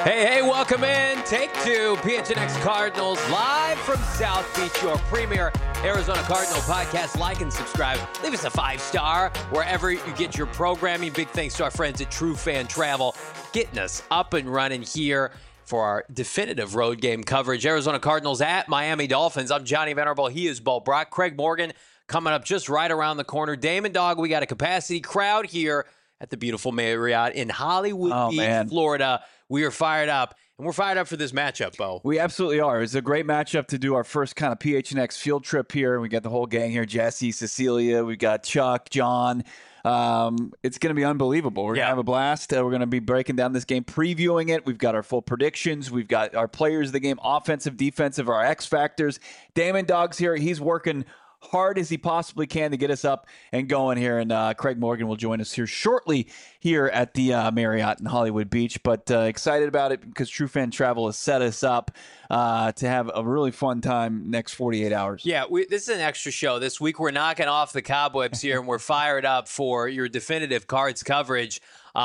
Hey, welcome in. Take two, PHNX Cardinals, live from South Beach, your premier Arizona Cardinal podcast. Like and subscribe. Leave us a 5-star wherever you get your programming. Big thanks to our friends at True Fan Travel, getting us up and running here for our definitive road game coverage. Arizona Cardinals at Miami Dolphins. I'm Johnny Venerable. He is Bo Brock. Craig Morgan coming up just right around the corner. Damon Dog, we got a capacity crowd here at the beautiful Marriott in Hollywood Beach, Florida. We are fired up, and we're fired up for this matchup, Bo. We absolutely are. It's a great matchup to do our first kind of PHNX field trip here. We got the whole gang here, Jesse, Cecilia, we got Chuck, John. It's going to be unbelievable. We're going to have a blast. We're going to be breaking down this game, previewing it. We've got our full predictions. We've got our players of the game, offensive, defensive, our X factors. Damon Dog's here. He's working hard as he possibly can to get us up and going here. And Craig Morgan will join us here shortly here at the Marriott in Hollywood Beach. But excited about it because True Fan Travel has set us up to have a really fun time next 48 hours. Yeah, this is an extra show. This week we're knocking off the cobwebs here, and we're fired up for your definitive Cards coverage.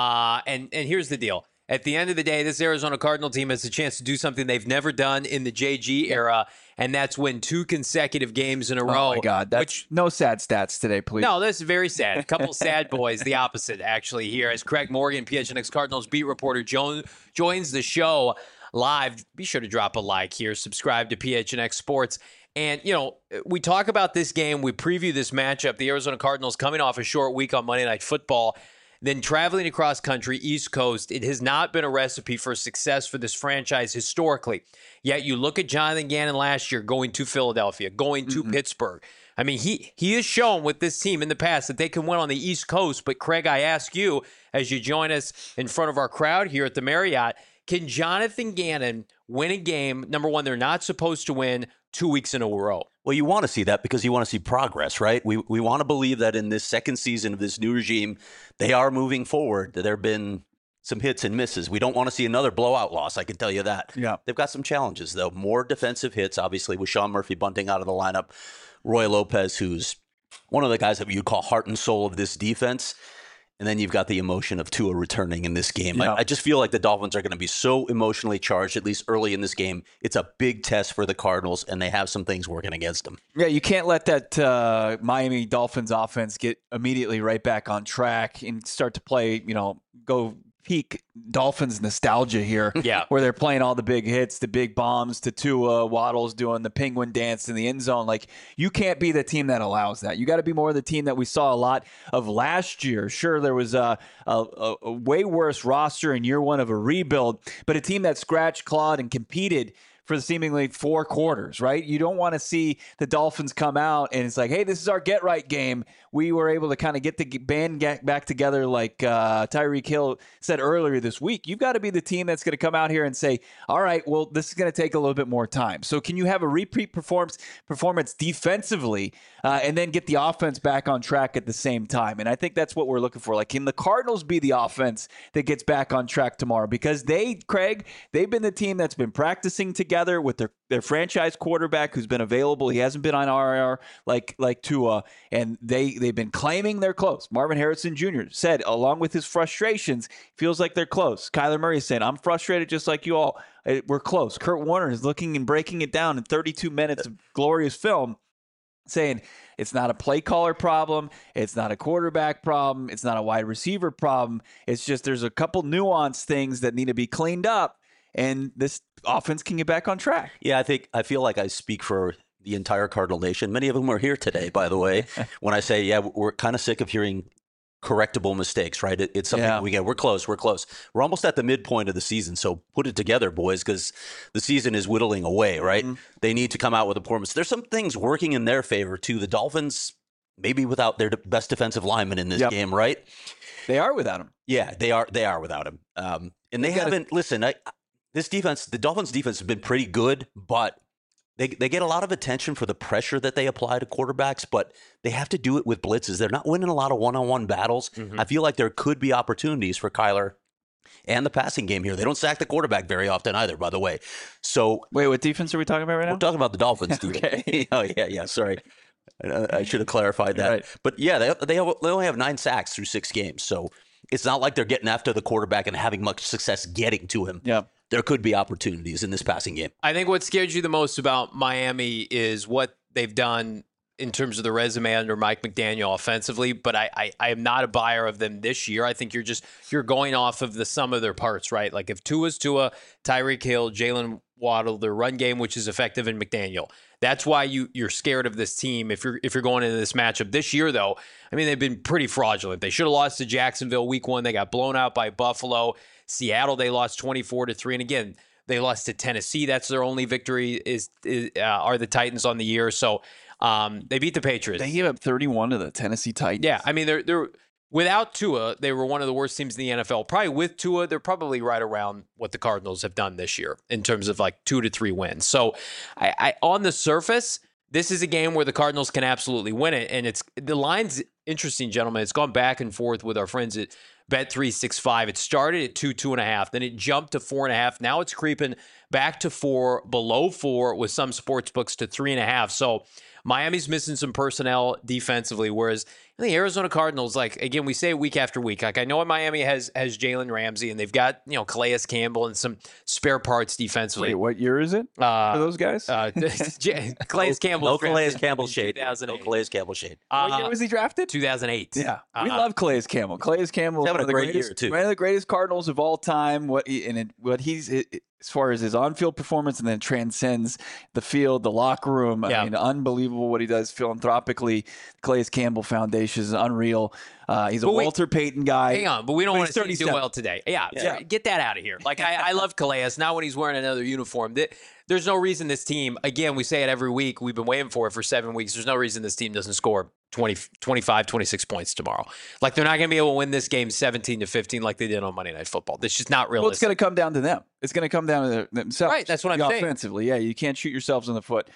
And here's the deal. At the end of the day, this Arizona Cardinal team has a chance to do something they've never done in the JG era, and that's win 2 consecutive games in a row. Oh, my God. No sad stats today, please. No, this is very sad. A couple sad boys, the opposite, actually, here. As Craig Morgan, PHNX Cardinals beat reporter, joins the show live. Be sure to drop a like here. Subscribe to PHNX Sports. And, we talk about this game. We preview this matchup. The Arizona Cardinals coming off a short week on Monday Night Football. Then traveling across country, East Coast, it has not been a recipe for success for this franchise historically. Yet you look at Jonathan Gannon last year going to Philadelphia, going to Pittsburgh. I mean, he has shown with this team in the past that they can win on the East Coast. But, Craig, I ask you, as you join us in front of our crowd here at the Marriott, can Jonathan Gannon win a game, number one, they're not supposed to win 2 weeks in a row? Well, you want to see that because you want to see progress, right? We want to believe that in this second season of this new regime, they are moving forward. There have been some hits and misses. We don't want to see another blowout loss, I can tell you that. Yeah. They've got some challenges, though. More defensive hits, obviously, with Sean Murphy bunting out of the lineup. Roy Lopez, who's one of the guys that you'd call heart and soul of this defense. And then you've got the emotion of Tua returning in this game. Yeah. I just feel like the Dolphins are going to be so emotionally charged, at least early in this game. It's a big test for the Cardinals, and they have some things working against them. Yeah, you can't let that Miami Dolphins offense get immediately right back on track and start to play, go peak Dolphins nostalgia here. Yeah. Where they're playing all the big hits, the big bombs to Tua, Waddle's doing the penguin dance in the end zone. Like, you can't be the team that allows that. You got to be more the team that we saw a lot of last year. Sure, there was a way worse roster in year one of a rebuild, but a team that scratched, clawed, and competed for the seemingly 4 quarters, right? You don't want to see the Dolphins come out and it's like, hey, this is our get-right game. We were able to kind of get the band back together like Tyreek Hill said earlier this week. You've got to be the team that's going to come out here and say, all right, well, this is going to take a little bit more time. So can you have a repeat performance defensively and then get the offense back on track at the same time? And I think that's what we're looking for. Like, can the Cardinals be the offense that gets back on track tomorrow? Because they've been the team that's been practicing together with their franchise quarterback who's been available. He hasn't been on IR like Tua, and they've been claiming they're close. Marvin Harrison Jr. said, along with his frustrations, feels like they're close. Kyler Murray is saying, I'm frustrated just like you all. We're close. Kurt Warner is looking and breaking it down in 32 minutes of glorious film, saying it's not a play caller problem. It's not a quarterback problem. It's not a wide receiver problem. It's just there's a couple nuanced things that need to be cleaned up, and this offense can get back on track. Yeah, I feel like I speak for the entire Cardinal Nation. Many of them are here today, by the way, when I say, yeah, we're kind of sick of hearing correctable mistakes, right? It's something we get. We're close. We're almost at the midpoint of the season. So put it together, boys, because the season is whittling away, right? Mm-hmm. They need to come out with a performance. There's some things working in their favor, too. The Dolphins, maybe without their best defensive lineman in this game, right? They are without him. Yeah, they are without him. And they haven't, this defense, the Dolphins defense has been pretty good, but they get a lot of attention for the pressure that they apply to quarterbacks, but they have to do it with blitzes. They're not winning a lot of one-on-one battles. Mm-hmm. I feel like there could be opportunities for Kyler and the passing game here. They don't sack the quarterback very often either, by the way. So wait, what defense are we talking about right now? We're talking about the Dolphins. Okay. Oh, yeah, sorry. I should have clarified that. Right. But yeah, they only have 9 sacks through 6 games. So it's not like they're getting after the quarterback and having much success getting to him. Yeah. there could be opportunities in this passing game. I think what scares you the most about Miami is what they've done in terms of the resume under Mike McDaniel offensively, but I am not a buyer of them this year. I think you're going off of the sum of their parts, right? Like if Tua's Tua, Tyreek Hill, Jalen Waddle, their run game, which is effective in McDaniel. That's why you're scared of this team if you're going into this matchup. This year, though, I mean, they've been pretty fraudulent. They should have lost to Jacksonville week 1. They got blown out by Buffalo. Seattle, they lost 24-3. And again, they lost to Tennessee. That's their only victory are the Titans on the year. So they beat the Patriots. They gave up 31 to the Tennessee Titans. Yeah, I mean, they're without Tua, they were one of the worst teams in the NFL. Probably with Tua, they're probably right around what the Cardinals have done this year in terms of like 2 to 3 wins. So I on the surface, this is a game where the Cardinals can absolutely win it. And the line's interesting, gentlemen. It's gone back and forth with our friends at Bet365. It started at 2.5, then it jumped to 4.5. Now it's creeping back to 4, below 4 with some sports books to 3.5. So Miami's missing some personnel defensively, whereas the Arizona Cardinals, like, again, we say it week after week. Like, I know Miami has Jalen Ramsey, and they've got, Calais Campbell and some spare parts defensively. Wait, what year is it for those guys? Calais Campbell. No Calais Campbell shade. No Calais Campbell shade. What year was he drafted? 2008. Yeah. We love Calais Campbell. Calais Campbell is having a great year, too. One of the greatest Cardinals of all time. As far as his on-field performance, and then transcends the field, the locker room. Yeah. I mean, unbelievable what he does philanthropically. Calais Campbell Foundation is unreal. He's a Walter Payton guy. Hang on, but we don't want to see him do 37. well today. Yeah, get that out of here. Like, I love Calais. Not when he's wearing another uniform. There's no reason this team, again, we say it every week. We've been waiting for it for 7 weeks. There's no reason this team doesn't score 20, 25, 26 points tomorrow. Like, they're not going to be able to win this game 17-15 like they did on Monday Night Football. That's just not realistic. Well, it's going to come down to them. It's going to come down to themselves. Right, that's what I'm saying. Offensively, yeah, you can't shoot yourselves in the foot.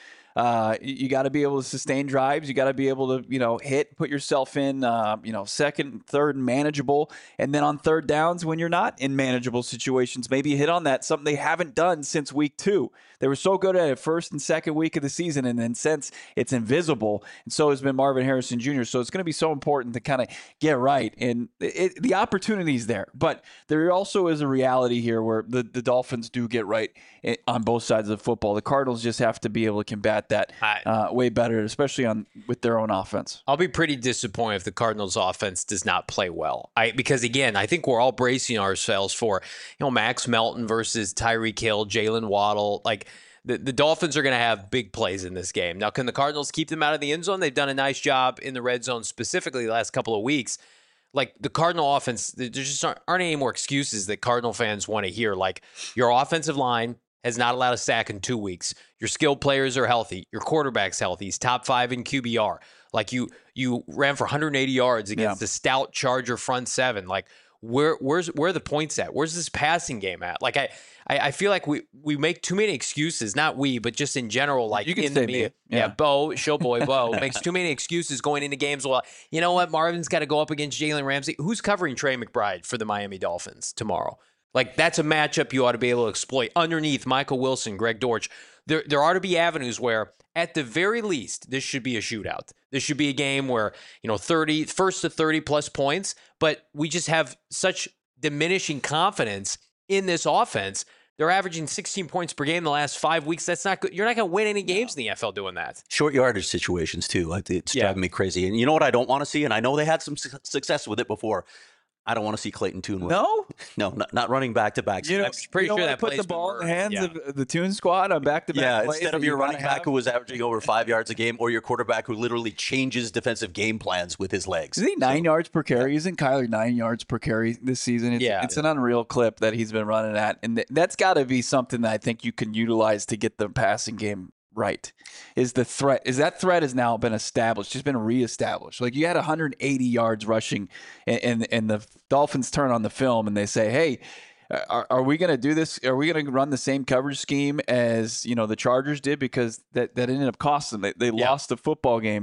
You got to be able to sustain drives. You got to be able to, put yourself in, second, third, manageable. And then on third downs, when you're not in manageable situations, maybe hit on that. Something they haven't done since week 2. They were so good at it first and second week of the season, and then since it's invisible, and so has been Marvin Harrison Jr. So it's going to be so important to kind of get right. And the opportunity's there, but there also is a reality here where the Dolphins do get right on both sides of the football. The Cardinals just have to be able to combat that way better, especially with their own offense. I'll be pretty disappointed if the Cardinals offense does not play well. Because again, I think we're all bracing ourselves for, Max Melton versus Tyreek Hill, Jalen Waddle. Like, the Dolphins are going to have big plays in this game. Now, can the Cardinals keep them out of the end zone? They've done a nice job in the red zone, specifically the last couple of weeks. Like, the Cardinal offense, there just aren't any more excuses that Cardinal fans want to hear. Like, your offensive line has not allowed a sack in 2 weeks. Your skilled players are healthy. Your quarterback's healthy. He's top 5 in QBR. Like, you ran for 180 yards against the stout Charger front seven. Like, where are the points at? Where's this passing game at? Like, I feel like we make too many excuses. Not we, but just in general. Like, you can in say the media. me. Yeah. Bo, showboy Bo makes too many excuses going into games. Well, you know what? Marvin's got to go up against Jalen Ramsey. Who's covering Trey McBride for the Miami Dolphins tomorrow? Like, that's a matchup you ought to be able to exploit. Underneath, Michael Wilson, Greg Dortch. There ought to be avenues where, at the very least, this should be a shootout. This should be a game where, 30, first to 30 plus points, but we just have such diminishing confidence in this offense. They're averaging 16 points per game the last 5 weeks. That's not good. You're not going to win any games in the NFL doing that. Short yardage situations, too. It's driving me crazy. And you know what I don't want to see? And I know they had some success with it before. I don't want to see Clayton Tune win. No, not running back-to-back. I'm pretty sure that put the ball in the hands of the Tune squad on back-to-back plays. Instead of your running back who was averaging over 5 yards a game, or your quarterback who literally changes defensive game plans with his legs. Isn't he 9 yards per carry? Isn't Kyler 9 yards per carry this season? It's an unreal clip that he's been running at. And that's got to be something that I think you can utilize to get the passing game right. That threat has now been established, just been reestablished. Like, you had 180 yards rushing, and the Dolphins turn on the film and they say, hey, are we going to do this? Are we going to run the same coverage scheme as the Chargers did? Because that ended up costing them. They lost the football game.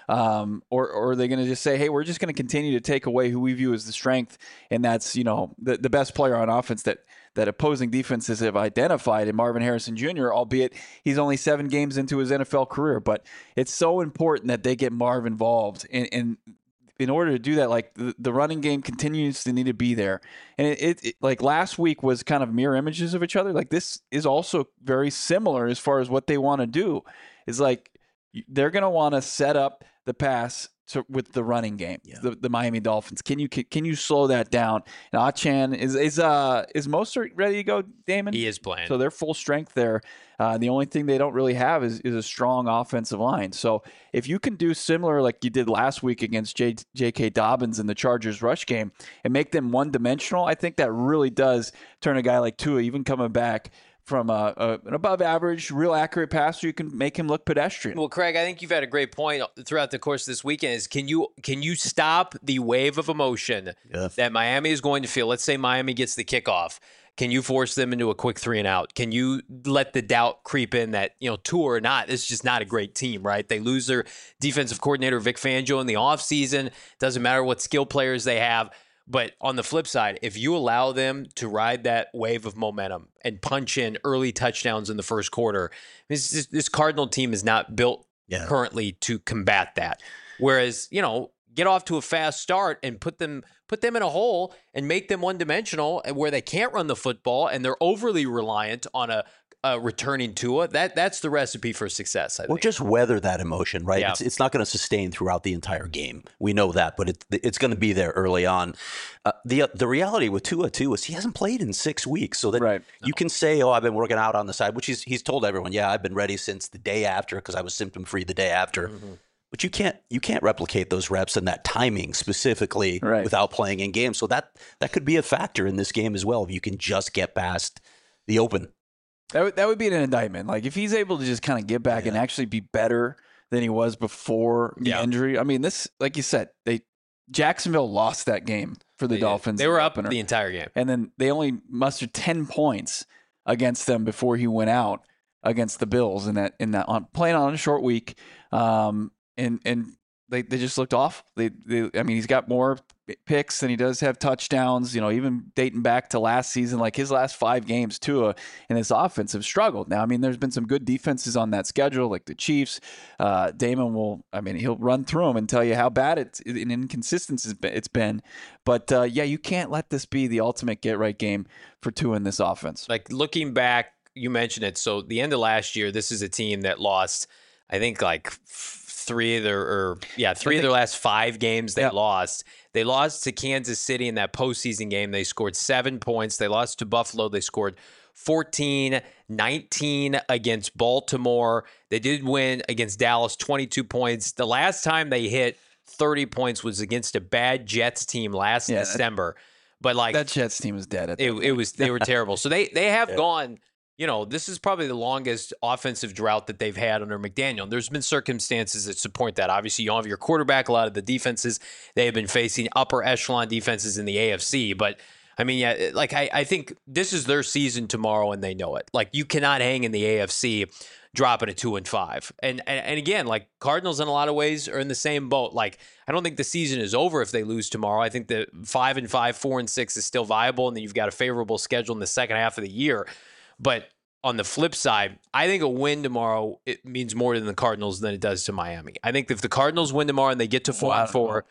Or are they going to just say, hey, we're just going to continue to take away who we view as the strength, and that's the best player on offense that opposing defenses have identified in Marvin Harrison Jr., albeit he's only 7 games into his NFL career. But it's so important that they get Marv involved. And in order to do that, like the running game continues to need to be there. And it like last week was kind of mirror images of each other. Like this is also very similar as far as what they want to do. Is like they're going to want to set up the pass with the running game, the Miami Dolphins. Can you slow that down? And Achane is Mostert ready to go, Damon? He is playing. So they're full strength there. The only thing they don't really have is a strong offensive line. So if you can do similar like you did last week against J.K. Dobbins in the Chargers rush game and make them one-dimensional, I think that really does turn a guy like Tua, even coming back from an above average, real accurate passer, you can make him look pedestrian. Well, Craig, I think you've had a great point throughout the course of this weekend is can you stop the wave of emotion that Miami is going to feel? Let's say Miami gets the kickoff. Can you force them into a quick 3-and-out? Can you let the doubt creep in that, Tua or not, it's just not a great team, right? They lose their defensive coordinator, Vic Fangio, in the offseason. Doesn't matter what skill players they have. But on the flip side, if you allow them to ride that wave of momentum and punch in early touchdowns in the first quarter, this Cardinal team is not built currently to combat that. Whereas, get off to a fast start and put them in a hole and make them one-dimensional where they can't run the football and they're overly reliant on a returning Tua. That's the recipe for success, I think. Well, just weather that emotion, right? Yeah. It's not going to sustain throughout the entire game. We know that, but it's going to be there early on. The reality with Tua too is he hasn't played in 6 weeks, so that you can say, "Oh, I've been working out on the side," which he's told everyone, "Yeah, I've been ready since the day after because I was symptom free the day after." Mm-hmm. But you can't replicate those reps and that timing specifically without playing in games. So that could be a factor in this game as well. If you can just get past the open. That would be an indictment. Like if he's able to just kind of get back and actually be better than he was before the injury. I mean, this, like you said, Jacksonville lost that game for the Dolphins. They were up the entire game, and then they only mustered 10 points against them before he went out against the Bills in that playing on a short week. And they just looked off. I mean, he's got more picks than he does have touchdowns. Even dating back to last season, like his last 5 games, Tua and his offense have struggled. Now, I mean, there's been some good defenses on that schedule, like the Chiefs. Damon he'll run through them and tell you how bad it's an inconsistency it's been. But you can't let this be the ultimate get right game for Tua in this offense. Like looking back, you mentioned it. So the end of last year, this is a team that lost, I think, like three of their last 5 games they lost. They lost to Kansas City in that postseason game. They scored 7 points. They lost to Buffalo. They scored 14, 19 against Baltimore. They did win against Dallas, 22 points. The last time they hit 30 points was against a bad Jets team last December. But like that Jets team is dead. They were terrible. So they have gone. This is probably the longest offensive drought that they've had under McDaniel. There's been circumstances that support that. Obviously, you don't have your quarterback. A lot of the defenses, they have been facing upper echelon defenses in the AFC. But, I mean, I think this is their season tomorrow, and they know it. Like, you cannot hang in the AFC dropping a 2-5. And again, like, Cardinals in a lot of ways are in the same boat. Like, I don't think the season is over if they lose tomorrow. I think the 5-5, 4-6 is still viable, and then you've got a favorable schedule in the second half of the year. But on the flip side, I think a win tomorrow, it means more to the Cardinals than it does to Miami. I think if the Cardinals win tomorrow and they get to 4-4,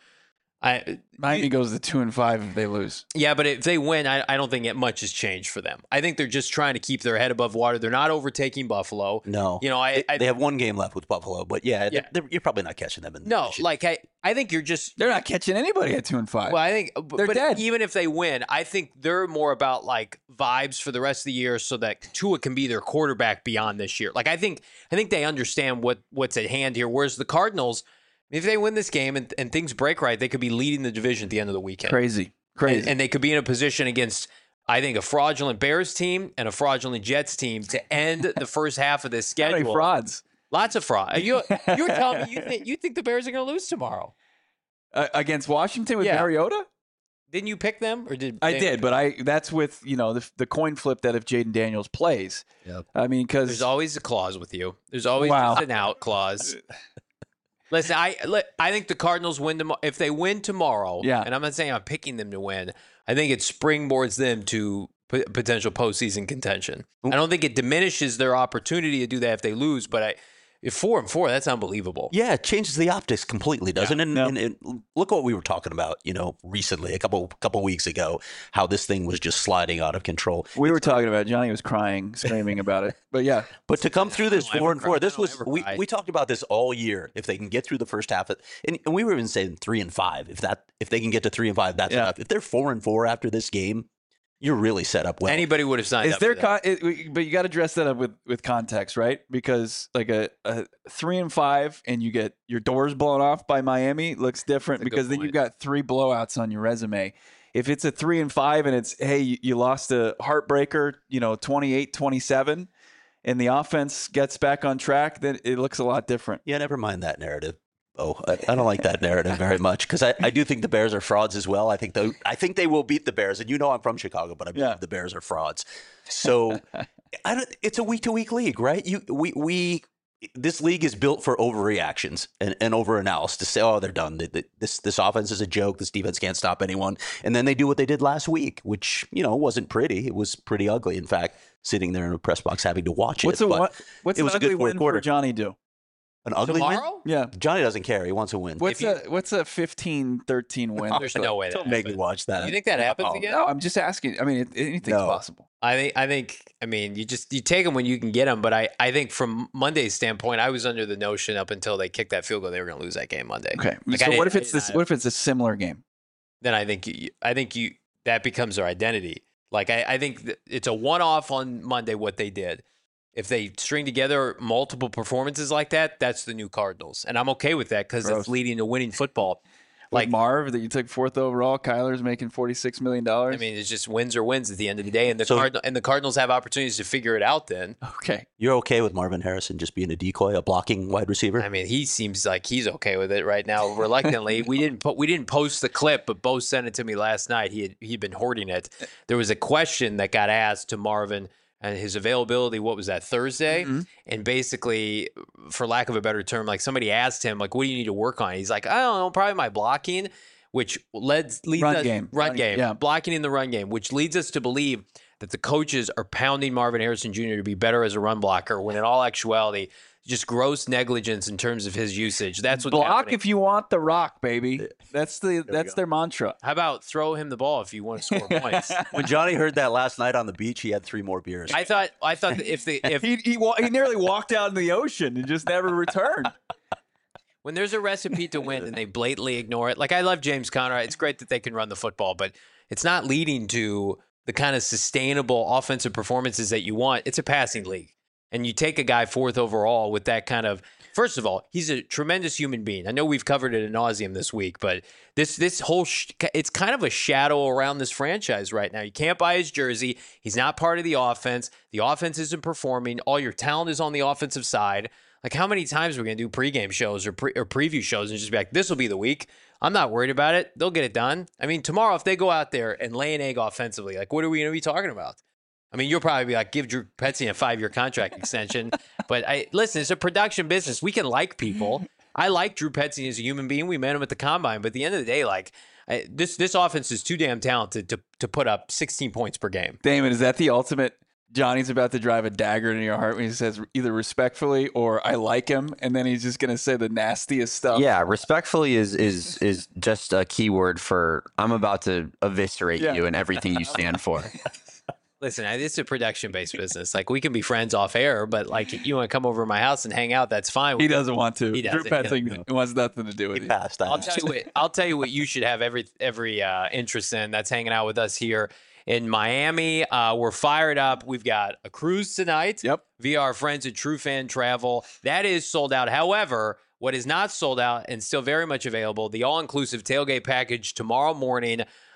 Miami goes to 2-5 if they lose. Yeah, but if they win, I don't think much has changed for them. I think they're just trying to keep their head above water. They're not overtaking Buffalo. No, they have 1 game left with Buffalo, but you're probably not catching them. I think you're just they're not catching anybody at 2-5. Well, I think they're dead. Even if they win, I think they're more about like vibes for the rest of the year, so that Tua can be their quarterback beyond this year. Like I think they understand what's at hand here. Whereas the Cardinals, if they win this game and things break right, they could be leading the division at the end of the weekend. Crazy. And they could be in a position against, I think, a fraudulent Bears team and a fraudulent Jets team to end the first half of this schedule. How many frauds? Lots of fraud. You were telling me you think the Bears are going to lose tomorrow against Washington with Mariota? Didn't you pick them, or did I did? But that's with the coin flip that if Jaden Daniels plays. Yep. I mean, because there's always a clause with you. There's always an out clause. Listen, I think the Cardinals win tomorrow. If they win tomorrow, and I'm not saying I'm picking them to win, I think it springboards them to potential postseason contention. I don't think it diminishes their opportunity to do that if they lose, but If 4-4, that's unbelievable. Yeah, it changes the optics completely, doesn't it? And look what we were talking about, recently, a couple weeks ago, how this thing was just sliding out of control. We were talking about it. Johnny was crying, screaming about it. But yeah. But to come through this 4-4, this was cry. we talked about this all year. If they can get through the first half, and we were even saying 3-5. If they can get to 3-5, that's enough. If they're 4-4 after this game, you're really set up well. Anybody would have signed up for that. But you got to dress that up with context, right? Because like a 3-5 and you get your doors blown off by Miami looks different because then you've got 3 blowouts on your resume. If it's a 3-5 and it's, hey, you lost a heartbreaker, 28-27, and the offense gets back on track, then it looks a lot different. Yeah, never mind that narrative. Oh, I don't like that narrative very much because I do think the Bears are frauds as well. I think they will beat the Bears, and I'm from Chicago, but I believe the Bears are frauds. So it's a week-to-week league, right? This league is built for overreactions and overanalysis to say, oh, they're done. This offense is a joke. This defense can't stop anyone. And then they do what they did last week, which, wasn't pretty. It was pretty ugly. In fact, sitting there in a press box having to watch What's it. What's an ugly win for Johnny do? An ugly Tomorrow? win? Yeah. Johnny doesn't care. He wants a win. What's a 15-13 win? There's no way. Don't make me watch that. You think that happens again? No, I'm just asking. I mean, anything's possible. I think. I mean, you take them when you can get them. But I think from Monday's standpoint, I was under the notion up until they kicked that field goal they were going to lose that game Monday. Okay. So what if it's a similar game? Then I think that becomes their identity. Like I think it's a one-off on Monday what they did. If they string together multiple performances like that, that's the new Cardinals. And I'm okay with that because it's leading to winning football. Like Marv, that you took 4th overall, Kyler's making $46 million. I mean, it's just wins or wins at the end of the day. And the Cardinals have opportunities to figure it out then. Okay. You're okay with Marvin Harrison just being a decoy, a blocking wide receiver? I mean, he seems like he's okay with it right now. Reluctantly, we didn't post the clip, but Bo sent it to me last night. He'd been hoarding it. There was a question that got asked to Marvin and his availability, what was that, Thursday? Mm-hmm. And basically, for lack of a better term, like somebody asked him, like, what do you need to work on? He's like, I don't know, probably my blocking, which leads run game. Yeah. Blocking in the run game, which leads us to believe that the coaches are pounding Marvin Harrison Jr. to be better as a run blocker, when in all actuality, just gross negligence in terms of his usage. That's what's block happening. If you want the rock, baby. That's their mantra. How about throw him the ball if you want to score points? When Johnny heard that last night on the beach, he had 3 more beers. I thought that if he nearly walked out in the ocean and just never returned. When there's a recipe to win and they blatantly ignore it, like I love James Conner. It's great that they can run the football, but it's not leading to the kind of sustainable offensive performances that you want. It's a passing league. And you take a guy 4th overall with that kind of, first of all, he's a tremendous human being. I know we've covered it ad nauseum this week, but this whole, it's kind of a shadow around this franchise right now. You can't buy his jersey. He's not part of the offense. The offense isn't performing. All your talent is on the offensive side. Like, how many times are we going to do pregame shows or preview shows and just be like, this will be the week? I'm not worried about it. They'll get it done. I mean, tomorrow, if they go out there and lay an egg offensively, like, what are we going to be talking about? I mean, you'll probably be like, give Drew Petzing a 5-year contract extension. But listen, it's a production business. We can like people. I like Drew Petzing as a human being. We met him at the Combine. But at the end of the day, like, this offense is too damn talented to put up 16 points per game. Damon, is that the ultimate? Johnny's about to drive a dagger into your heart when he says either respectfully or I like him, and then he's just going to say the nastiest stuff. Yeah, respectfully is just a keyword for I'm about to eviscerate you and everything you stand for. Listen, it's a production-based business. Like, we can be friends off air, but like, you want to come over to my house and hang out, that's fine. He doesn't want to. He doesn't. Drew Petzing wants nothing to do with he you. Passed that. I'll tell you what you should have every interest in. That's hanging out with us here in Miami. We're fired up. We've got a cruise tonight. Yep. Via our friends at True Fan Travel. That is sold out. However, what is not sold out and still very much available, the all-inclusive tailgate package tomorrow morning,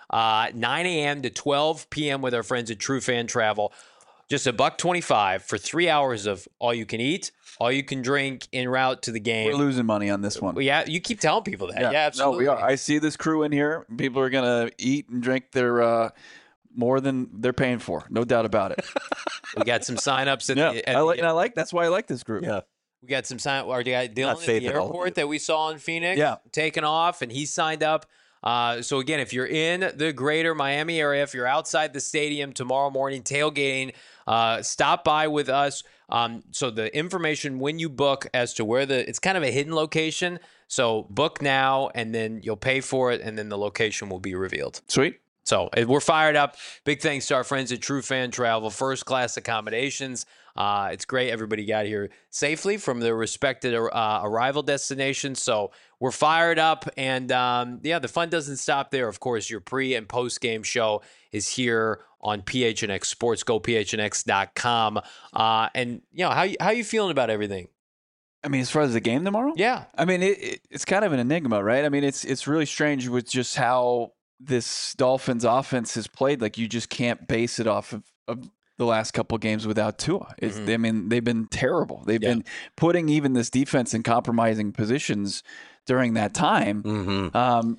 9 a.m. to 12 p.m. with our friends at True Fan Travel. Just $125 for 3 hours of all you can eat, all you can drink en route to the game. We're losing money on this one. Well, yeah, you keep telling people that. Yeah, absolutely. No, we are. I see this crew in here. People are going to eat and drink their more than they're paying for. No doubt about it. We got some signups that's why I like this group. Yeah. We got some sign. Our guy Dylan at the airport that we saw in Phoenix, taking off, and he signed up. So again, if you're in the greater Miami area, if you're outside the stadium tomorrow morning tailgating, stop by with us. So the information when you book as to where it's kind of a hidden location. So book now, and then you'll pay for it, and then the location will be revealed. Sweet. So we're fired up. Big thanks to our friends at True Fan Travel, first class accommodations. It's great. Everybody got here safely from their respected arrival destinations. So we're fired up. And the fun doesn't stop there. Of course, your pre and post game show is here on PHNX Sports. Go PHNX.com. And how you feeling about everything? I mean, as far as the game tomorrow? Yeah. I mean, it's kind of an enigma, right? I mean, it's really strange with just how this Dolphins offense has played. Like, you just can't base it off of the last couple of games without Tua. I mean, they've been terrible. They've been putting even this defense in compromising positions during that time. And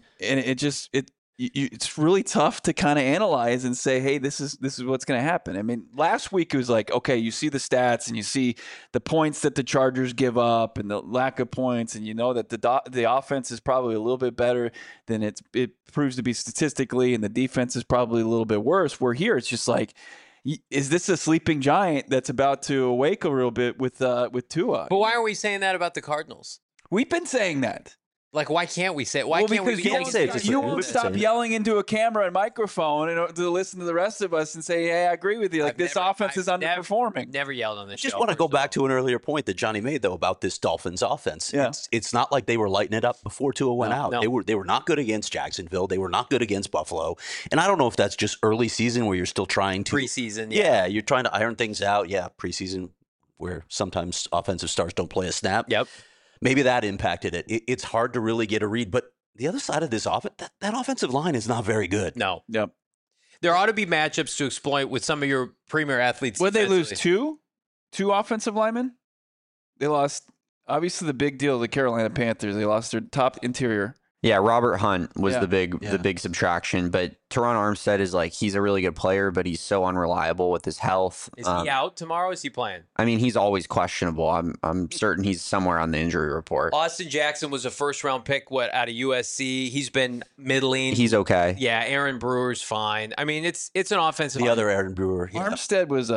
it's really tough to kind of analyze and say, hey, this is what's going to happen. I mean, last week it was like, okay, you see the stats and you see the points that the Chargers give up and the lack of points, and you know that the offense is probably a little bit better than it proves to be statistically, and the defense is probably a little bit worse. Where here it's just like, is this a sleeping giant that's about to awake a little bit with Tua? But why are we saying that about the Cardinals? We've been saying that. Like, why can't we say it? Why can't we be because you won't stop yelling into a camera and microphone and to listen to the rest of us and say, hey, I agree with you. Like, this offense is underperforming. Never yelled on this show. Just want to go back to an earlier point that Johnny made, though, about this Dolphins offense. Yeah. It's not like they were lighting it up before Tua went out. No. They were not good against Jacksonville. They were not good against Buffalo. And I don't know if that's just early season where you're still trying to. Preseason. Yeah, you're trying to iron things out. Yeah, preseason where sometimes offensive stars don't play a snap. Yep. Maybe that impacted it. It's hard to really get a read. But the other side of this offense, that offensive line is not very good. No. Yep. There ought to be matchups to exploit with some of your premier athletes. Would they lose two offensive linemen? They lost, obviously, the big deal, the Carolina Panthers. They lost their top interior. Yeah, Robert Hunt was the big subtraction, but Teron Armstead is he's a really good player, but he's so unreliable with his health. Is he out tomorrow? Is he playing? I mean, he's always questionable. I'm certain he's somewhere on the injury report. Austin Jackson was a first-round pick, out of USC. He's been middling. He's okay. Yeah, Aaron Brewer's fine. I mean, it's an offensive. The other Aaron Brewer. Yeah. Armstead was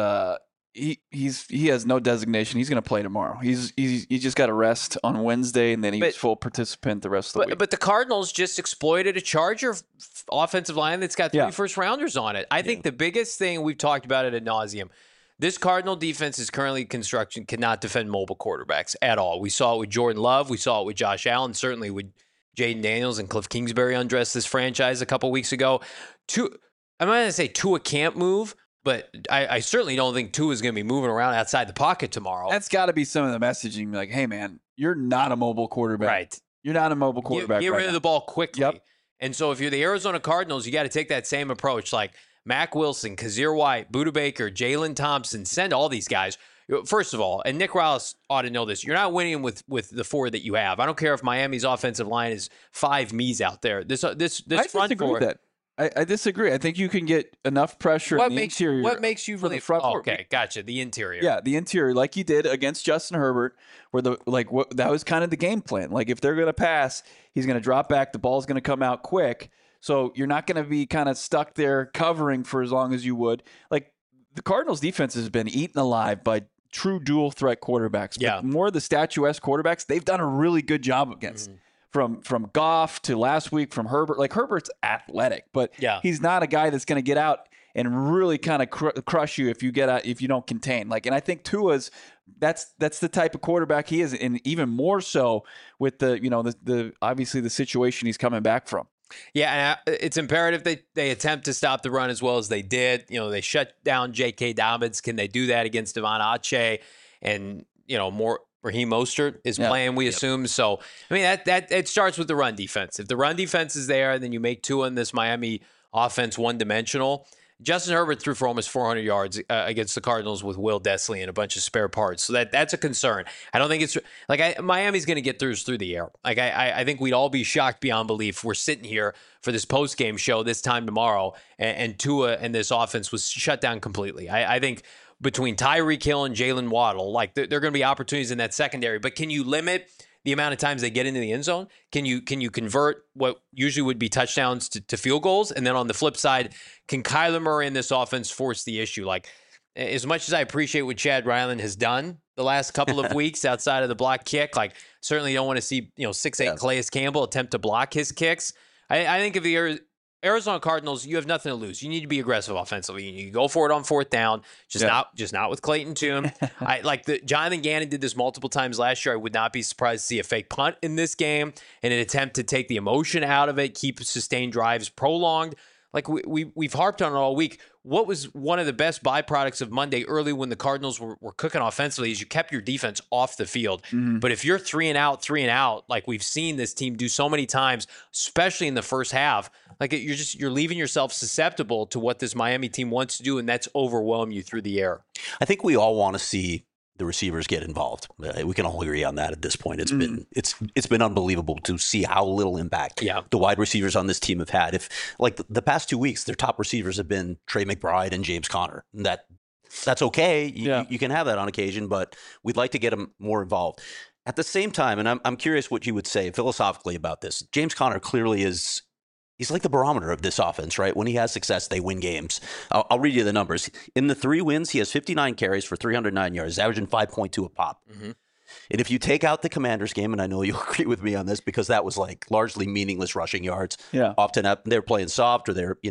he has no designation. He's going to play tomorrow. He just got a rest on Wednesday, and then he was full participant the rest of the week. But the Cardinals just exploited a Charger offensive line that's got 3 first-rounders on it. I think the biggest thing, we've talked about it ad nauseum, this Cardinal defense is currently construction cannot defend mobile quarterbacks at all. We saw it with Jordan Love. We saw it with Josh Allen, certainly with Jaden Daniels and Cliff Kingsbury undressed this franchise a couple weeks ago. I'm not going to say Tua can't move, but I certainly don't think Tua is going to be moving around outside the pocket tomorrow. That's got to be some of the messaging. Like, hey, man, you're not a mobile quarterback. Right. You're not a mobile quarterback. Get rid of the ball quickly. Yep. And so if you're the Arizona Cardinals, you got to take that same approach. Like Mack Wilson, Kazir White, Budda Baker, Jalen Thompson, send all these guys. First of all, and Nick Rillis ought to know this, you're not winning with the 4 that you have. I don't care if Miami's offensive line is 5 me's out there. This front 4. With that. I disagree. I think you can get enough pressure in the interior. What makes you really the front? Okay, gotcha. The interior. Yeah, the interior, like you did against Justin Herbert, where that was kind of the game plan. Like, if they're going to pass, he's going to drop back. The ball's going to come out quick. So you're not going to be kind of stuck there covering for as long as you would. Like, the Cardinals' defense has been eaten alive by true dual threat quarterbacks. But more of the statuesque quarterbacks, they've done a really good job against. Mm-hmm. From Goff to last week from Herbert. Like, Herbert's athletic, but he's not a guy that's going to get out and really kind of crush you if you don't contain. Like, and I think Tua's that's the type of quarterback he is, and even more so with the obviously the situation he's coming back from. Yeah, and it's imperative they attempt to stop the run as well as they did. They shut down J.K. Dobbins. Can they do that against Devon Achane and more? Raheem Mostert is playing, we assume. So, I mean, that it starts with the run defense. If the run defense is there, then you make Tua in this Miami offense one-dimensional. Justin Herbert threw for almost 400 yards against the Cardinals with Will Dissly and a bunch of spare parts. So that's a concern. I don't think it's – Miami's going to get through the air. Like, I think we'd all be shocked beyond belief. We're sitting here for this post-game show this time tomorrow, and Tua and this offense was shut down completely. I think – between Tyreek Hill and Jalen Waddle, there are going to be opportunities in that secondary. But can you limit the amount of times they get into the end zone? Can you convert what usually would be touchdowns to field goals? And then on the flip side, can Kyler Murray in this offense force the issue? Like, as much as I appreciate what Chad Ryland has done the last couple of weeks outside of the block kick, like certainly don't want to see 6'8" Calais Campbell attempt to block his kicks. I think if the Arizona Cardinals, you have nothing to lose. You need to be aggressive offensively. You go for it on fourth down, just not with Clayton Tune. Jonathan Gannon did this multiple times last year. I would not be surprised to see a fake punt in this game in an attempt to take the emotion out of it, keep sustained drives prolonged. Like we've harped on it all week. What was one of the best byproducts of Monday early when the Cardinals were cooking offensively is you kept your defense off the field. Mm-hmm. But if you're 3 and out, like we've seen this team do so many times, especially in the first half, like you're leaving yourself susceptible to what this Miami team wants to do, and that's overwhelm you through the air. I think we all want to see the receivers get involved. We can all agree on that at this point. It's been unbelievable to see how little impact the wide receivers on this team have had. If like the past 2 weeks, their top receivers have been Trey McBride and James Conner. That's okay. You can have that on occasion, but we'd like to get them more involved. At the same time, and I'm curious what you would say philosophically about this. James Conner clearly is. He's like the barometer of this offense, right? When he has success, they win games. I'll read you the numbers. In the 3 wins, he has 59 carries for 309 yards, averaging 5.2 a pop. Mm-hmm. And if you take out the Commanders game, and I know you'll agree with me on this because that was like largely meaningless rushing yards. Yeah. Often they're playing soft or they're,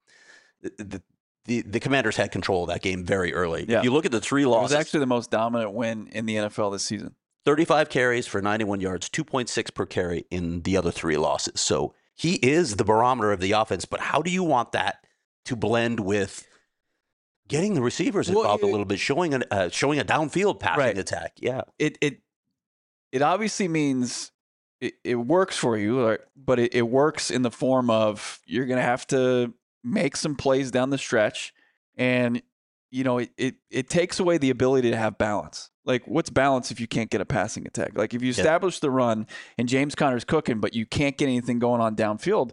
the Commanders had control of that game very early. Yeah. If you look at the 3 losses. It was actually the most dominant win in the NFL this season. 35 carries for 91 yards, 2.6 per carry in the other 3 losses. So he is the barometer of the offense, but how do you want that to blend with getting the receivers involved a little bit, showing a downfield passing attack? Yeah, it obviously means it works for you, but it works in the form of you're going to have to make some plays down the stretch, and it takes away the ability to have balance. Like, what's balance if you can't get a passing attack? Like, if you establish the run and James Conner's cooking, but you can't get anything going on downfield,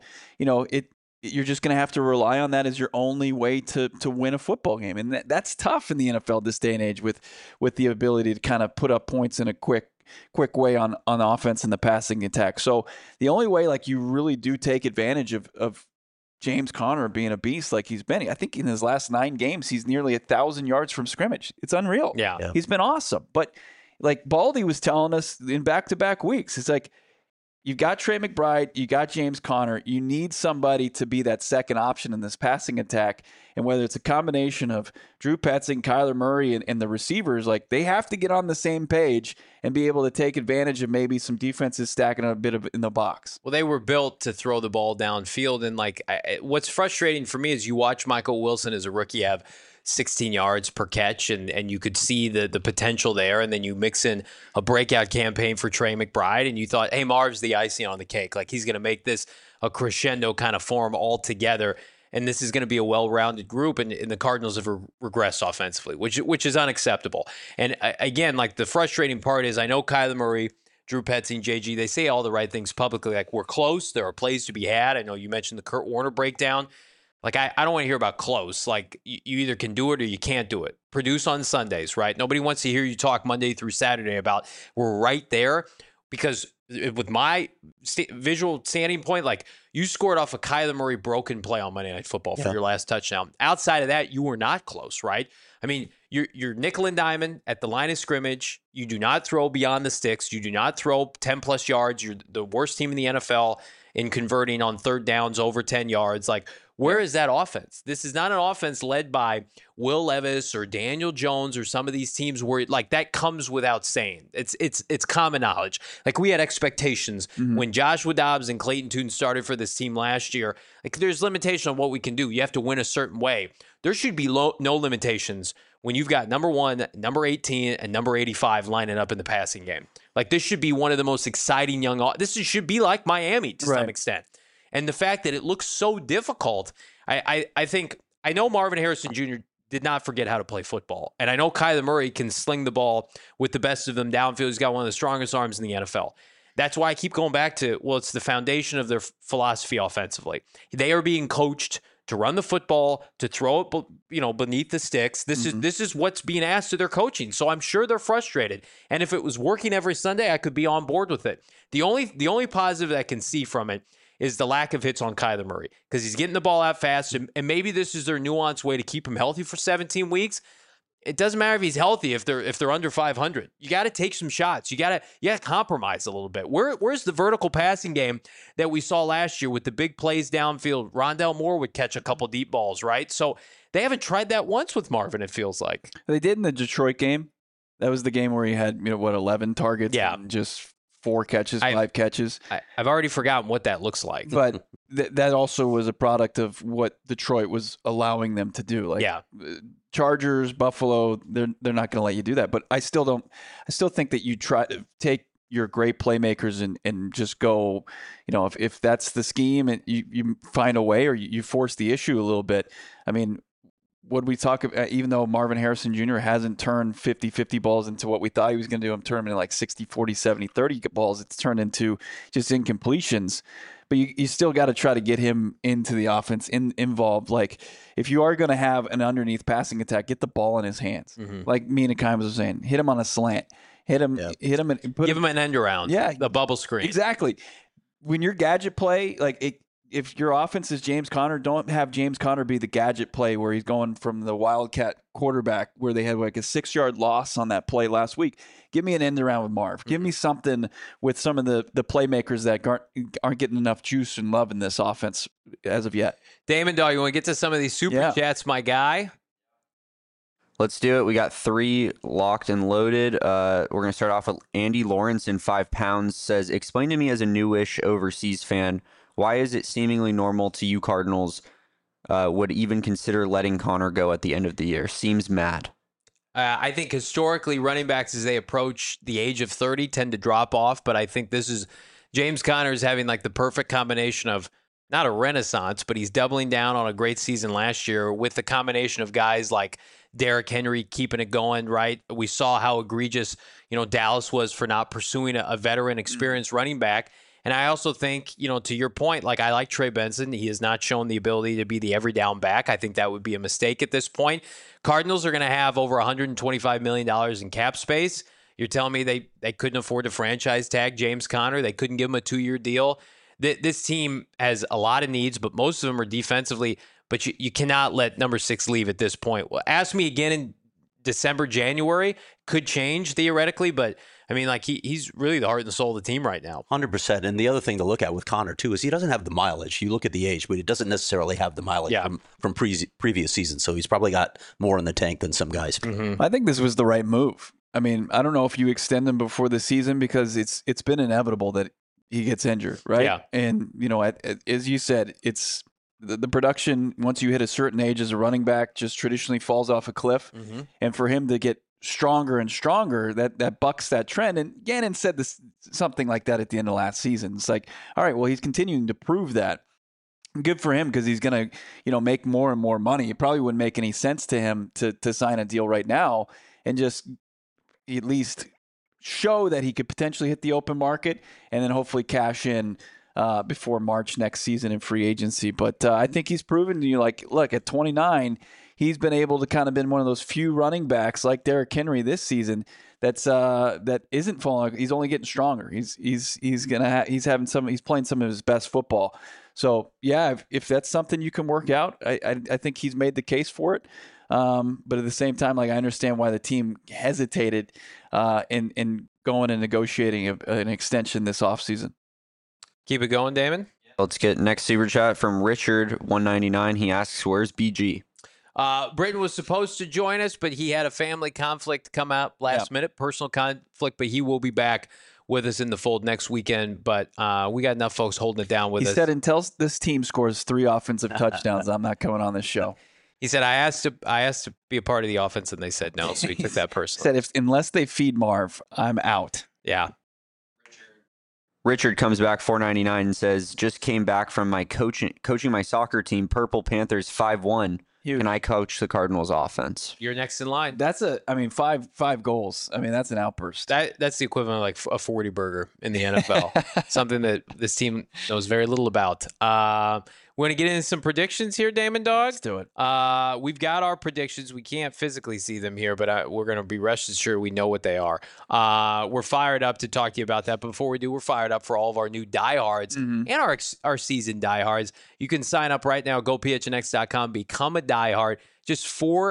you're just going to have to rely on that as your only way to win a football game. And that's tough in the NFL this day and age with the ability to kind of put up points in a quick way on offense and the passing attack. So the only way, like, you really do take advantage of James Conner being a beast like he's been. I think in his last 9 games, he's nearly 1,000 yards from scrimmage. It's unreal. Yeah. He's been awesome. But like Baldy was telling us in back-to-back weeks, it's like, you've got Trey McBride, you got James Conner. You need somebody to be that second option in this passing attack. And whether it's a combination of Drew Petzing, Kyler Murray, and the receivers, like, they have to get on the same page and be able to take advantage of maybe some defenses stacking a bit in the box. Well, they were built to throw the ball downfield. And like, what's frustrating for me is you watch Michael Wilson as a rookie have 16 yards per catch, and you could see the potential there. And then you mix in a breakout campaign for Trey McBride, and you thought, hey, Marv's the icing on the cake. Like, he's going to make this a crescendo kind of form altogether. And this is going to be a well-rounded group, and the Cardinals have regressed offensively, which is unacceptable. And again, like, the frustrating part is I know Kyler Murray, Drew Petzing, JG, they say all the right things publicly, like, we're close, there are plays to be had. I know you mentioned the Kurt Warner breakdown. Like, I don't want to hear about close. Like, you either can do it or you can't do it. Produce on Sundays, right? Nobody wants to hear you talk Monday through Saturday about we're right there, because with my visual standing point, like, you scored off a Kyler Murray broken play on Monday Night Football for your last touchdown. Outside of that, you were not close, right? I mean, you're nickel and diamond at the line of scrimmage. You do not throw beyond the sticks. You do not throw 10-plus yards. You're the worst team in the NFL in converting on third downs over 10 yards. Like, where is that offense? This is not an offense led by Will Levis or Daniel Jones or some of these teams where, like, that comes without saying. It's common knowledge. Like, we had expectations when Joshua Dobbs and Clayton Tune started for this team last year. Like, there's limitation on what we can do. You have to win a certain way. There should be no limitations when you've got number 1, number 18, and number 85 lining up in the passing game. Like, this should be one of the most exciting this should be like Miami to some extent. And the fact that it looks so difficult, I think, I know Marvin Harrison Jr. did not forget how to play football. And I know Kyler Murray can sling the ball with the best of them downfield. He's got one of the strongest arms in the NFL. That's why I keep going back to, well, it's the foundation of their philosophy offensively. They are being coached to run the football, to throw it, beneath the sticks. This is what's being asked of their coaching. So I'm sure they're frustrated. And if it was working every Sunday, I could be on board with it. The only positive that I can see from it is the lack of hits on Kyler Murray, because he's getting the ball out fast, and maybe this is their nuanced way to keep him healthy for 17 weeks. It doesn't matter if he's healthy if they're under 500. You got to take some shots. You got to compromise a little bit. Where's the vertical passing game that we saw last year with the big plays downfield? Rondale Moore would catch a couple deep balls, right? So they haven't tried that once with Marvin, it feels like. They did in the Detroit game. That was the game where he had 11 targets, and just 4 catches, 5 catches. I've already forgotten what that looks like. But that also was a product of what Detroit was allowing them to do. Chargers, Buffalo, they're not going to let you do that. But I still think that you try to take your great playmakers and just go, if that's the scheme and you find a way, or you force the issue a little bit. I mean, what we talk about, even though Marvin Harrison Jr. hasn't turned 50-50 balls into what we thought he was going to do, I'm turning like 60-40, 70-30 balls. It's turned into just incompletions. But you still got to try to get him into the offense, involved. Like, if you are going to have an underneath passing attack, get the ball in his hands. Like Mina Kimes was saying, hit him on a slant. Hit him, and give him an end around. Yeah. The bubble screen. Exactly. When your gadget play, if your offense is James Conner, don't have James Conner be the gadget play where he's going from the Wildcat quarterback where they had like a 6-yard loss on that play last week. Give me an end around with Marv. Give me something with some of the playmakers that aren't getting enough juice and love in this offense as of yet. Damon Dahl, you want to get to some of these super chats, my guy? Let's do it. We got 3 locked and loaded. We're going to start off with Andy Lawrence in 5 pounds says, explain to me as a newish overseas fan, why is it seemingly normal to you Cardinals would even consider letting Connor go at the end of the year? Seems mad. I think historically running backs, as they approach the age of 30, tend to drop off. But I think this is James Conner is having like the perfect combination of not a renaissance, but he's doubling down on a great season last year with the combination of guys like Derrick Henry keeping it going, right? We saw how egregious, Dallas was for not pursuing a veteran, experienced running back. And I also think, to your point, like I like Trey Benson. He has not shown the ability to be the every down back. I think that would be a mistake at this point. Cardinals are going to have over $125 million in cap space. You're telling me they couldn't afford to franchise tag James Conner? They couldn't give him a 2-year deal? This team has a lot of needs, but most of them are defensively. But you cannot let number 6 leave at this point. Well, ask me again in December, January. Could change theoretically, but I mean, like he's really the heart and soul of the team right now. 100%. And the other thing to look at with Connor too is he doesn't have the mileage. You look at the age, but he doesn't necessarily have the mileage from previous seasons. So he's probably got more in the tank than some guys. I think this was the right move. I mean, I don't know if you extend him before the season because it's been inevitable that he gets injured, right? Yeah. And as you said, it's the production once you hit a certain age as a running back just traditionally falls off a cliff, and for him to get stronger and stronger, that bucks that trend. And Gannon said something like that at the end of last season. It's like, all right, well, he's continuing to prove that. Good for him because he's going to, make more and more money. It probably wouldn't make any sense to him to sign a deal right now and just at least show that he could potentially hit the open market and then hopefully cash in before March next season in free agency. But I think he's proven to you, look, at 29, he's been able to kind of been one of those few running backs like Derrick Henry this season that isn't falling. He's only getting stronger. He's playing some of his best football. So yeah, if that's something you can work out, I think he's made the case for it. But at the same time, I understand why the team hesitated in going and negotiating an extension this offseason. Keep it going, Damon. Let's get next super chat from Richard 199. He asks, "Where's BG?" Britton was supposed to join us, but he had a family conflict come out last minute, personal conflict, but he will be back with us in the fold next weekend. But we got enough folks holding it down with us. He said until this team scores 3 offensive touchdowns, I'm not coming on this show. He said, I asked to be a part of the offense, and they said no, so he took that personally. He said, unless they feed Marv, I'm out. Yeah. Richard comes back 499 and says, "Just came back from my coaching my soccer team, Purple Panthers 5-1. Can I coach the Cardinals offense?" You're next in line. That's five goals. I mean, that's an outburst. That's the equivalent of like a 40 burger in the NFL. Something that this team knows very little about. We want to get into some predictions here, Damon Dog? Let's do it. We've got our predictions. We can't physically see them here, but we're going to be rest assured we know what they are. We're fired up to talk to you about that. But before we do, we're fired up for all of our new diehards and our seasoned diehards. You can sign up right now. Go phnx.com. Become a diehard. Just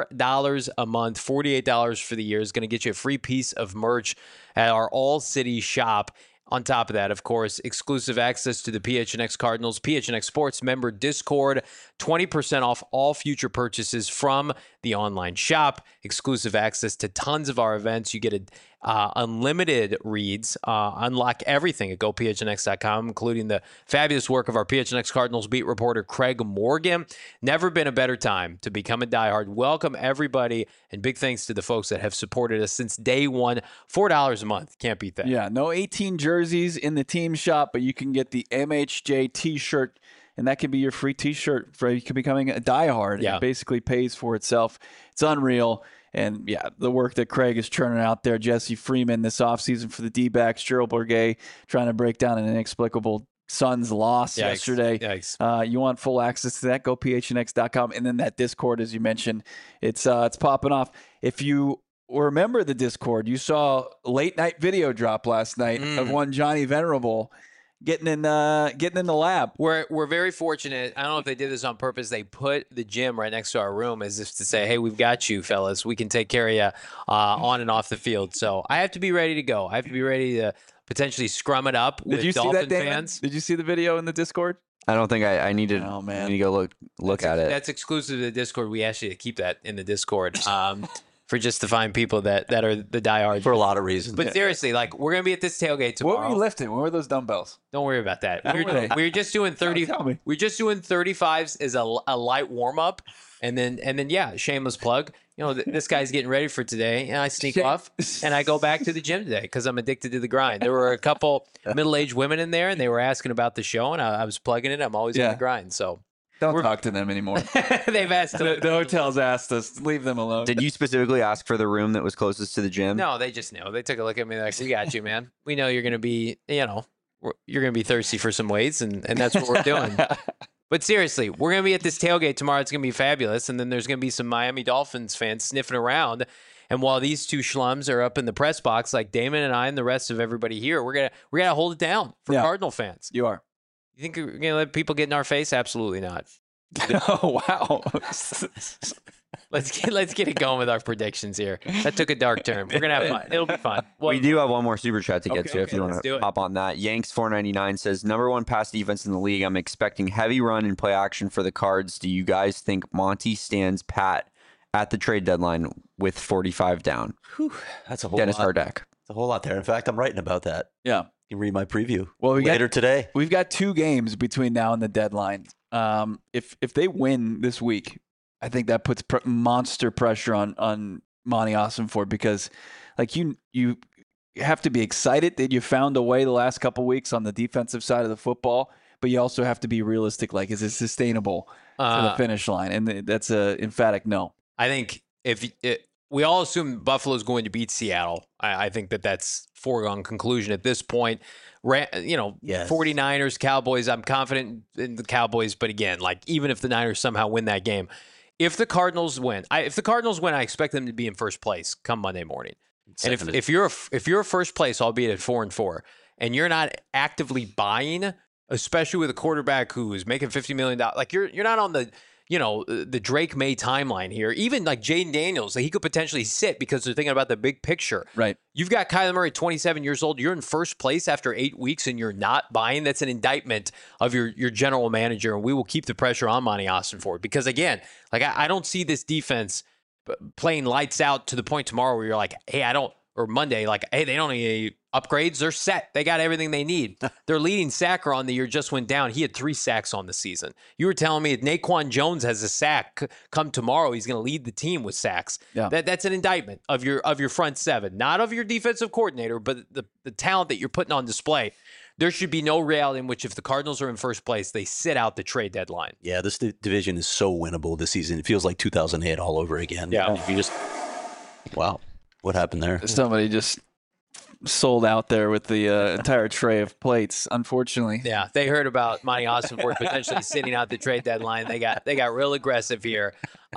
$4 a month, $48 for the year is going to get you a free piece of merch at our All City shop. On top of that, of course, exclusive access to the PHNX Cardinals, PHNX Sports member Discord, 20% off all future purchases from the online shop, exclusive access to tons of our events. You get unlimited reads, unlock everything at gophnx.com, including the fabulous work of our PHNX Cardinals beat reporter Craig Morgan. Never been a better time to become a diehard. Welcome, everybody, and big thanks to the folks that have supported us since day one. $4 a month. Can't beat that. Yeah, no 18 jerseys in the team shop, but you can get the MHJ t-shirt, and that can be your free t-shirt for becoming a diehard. Yeah. It basically pays for itself. It's unreal. And, yeah, the work that Craig is churning out there, Jesse Freeman this offseason for the D-backs, Gerald Bourguet trying to break down an inexplicable Suns loss yesterday. Yikes. You want full access to that, go phnx.com. And then that Discord, as you mentioned, it's popping off. If you remember the Discord, you saw a late-night video drop last night of one Johnny Venerable getting in the lab. We're very fortunate. I don't know if they did this on purpose. They put the gym right next to our room as if to say, hey, we've got you, fellas. We can take care of you on and off the field. So I have to be ready to go. I have to be ready to potentially scrum it up with Dolphin fans. Did you see the video in the Discord? I don't think I need to. Oh, man. I need to go look at it. That's exclusive to the Discord. We asked you to keep that in the Discord. For just to find people that are the diehards. For a lot of reasons. But seriously, like, we're going to be at this tailgate tomorrow. What were you lifting? What were those dumbbells? Don't worry about that. What were they? We were just doing 30. Tell me. We're just doing 35s as a light warm up, and then yeah, shameless plug. You know, this guy's getting ready for today, and I sneak off and I go back to the gym today because I'm addicted to the grind. There were a couple middle-aged women in there, and they were asking about the show, and I was plugging it. I'm always on the grind, so. Don't talk to them anymore. They've asked. The hotel's asked us. Leave them alone. Did you specifically ask for the room that was closest to the gym? No, they just knew. They took a look at me like, we got you, man. We know you're going to be, you're going to be thirsty for some weights, and that's what we're doing. But seriously, we're going to be at this tailgate tomorrow. It's going to be fabulous. And then there's going to be some Miami Dolphins fans sniffing around. And while these two schlums are up in the press box, like Damon and I and the rest of everybody here, we're gonna hold it down for Cardinal fans. You are. You think we're going to let people get in our face? Absolutely not. Oh, wow. Let's get it going with our predictions here. That took a dark turn. We're gonna have fun. It'll be fun. Well, we do have one more super chat to get to if you let's want do to it. hop on that. Yanks 499 says number one pass defense in the league. I'm expecting heavy run and play action for the Cards. Do you guys think Monty stands pat at the trade deadline with 45 down? Whew, that's a whole Dennis lot. Hardak. It's a whole lot there. In fact, I'm writing about that. Yeah. You can read my preview Well, later today. We've got 2 games between now and the deadline. If they win this week, I think that puts monster pressure on Monty Ossenfort because, like, you have to be excited that you found a way the last couple weeks on the defensive side of the football, but you also have to be realistic. Like, is it sustainable to the finish line? And that's a emphatic no. I think we all assume Buffalo's going to beat Seattle. I think that's foregone conclusion at this point. Yes. 49ers, Cowboys, I'm confident in the Cowboys, but again, like, even if the Niners somehow win that game, if the Cardinals win, I expect them to be in first place come Monday morning. And if you're a first place, albeit at 4-4, and you're not actively buying, especially with a quarterback who is making $50 million, like, you're not on the Drake May timeline here. Even like Jaden Daniels, he could potentially sit because they're thinking about the big picture. Right. You've got Kyler Murray, 27 years old. You're in first place after 8 weeks and you're not buying. That's an indictment of your general manager. And we will keep the pressure on Monty Ossenfort because, again, like, I don't see this defense playing lights out to the point tomorrow where you're like, hey, or Monday, like, hey, they don't need upgrades. They're set. They got everything they need. Their leading sacker on the year just went down. He had 3 sacks on the season. You were telling me if Naquan Jones has a sack come tomorrow, he's going to lead the team with sacks. Yeah. That's an indictment of your front seven, not of your defensive coordinator, but the talent that you're putting on display. There should be no reality in which if the Cardinals are in first place, they sit out the trade deadline. Yeah, this division is so winnable this season. It feels like 2008 all over again. Yeah. Wow. What happened there? Somebody just sold out there with the entire tray of plates, unfortunately. Yeah, they heard about Monty Ossenfort potentially sitting out the trade deadline. They got real aggressive here.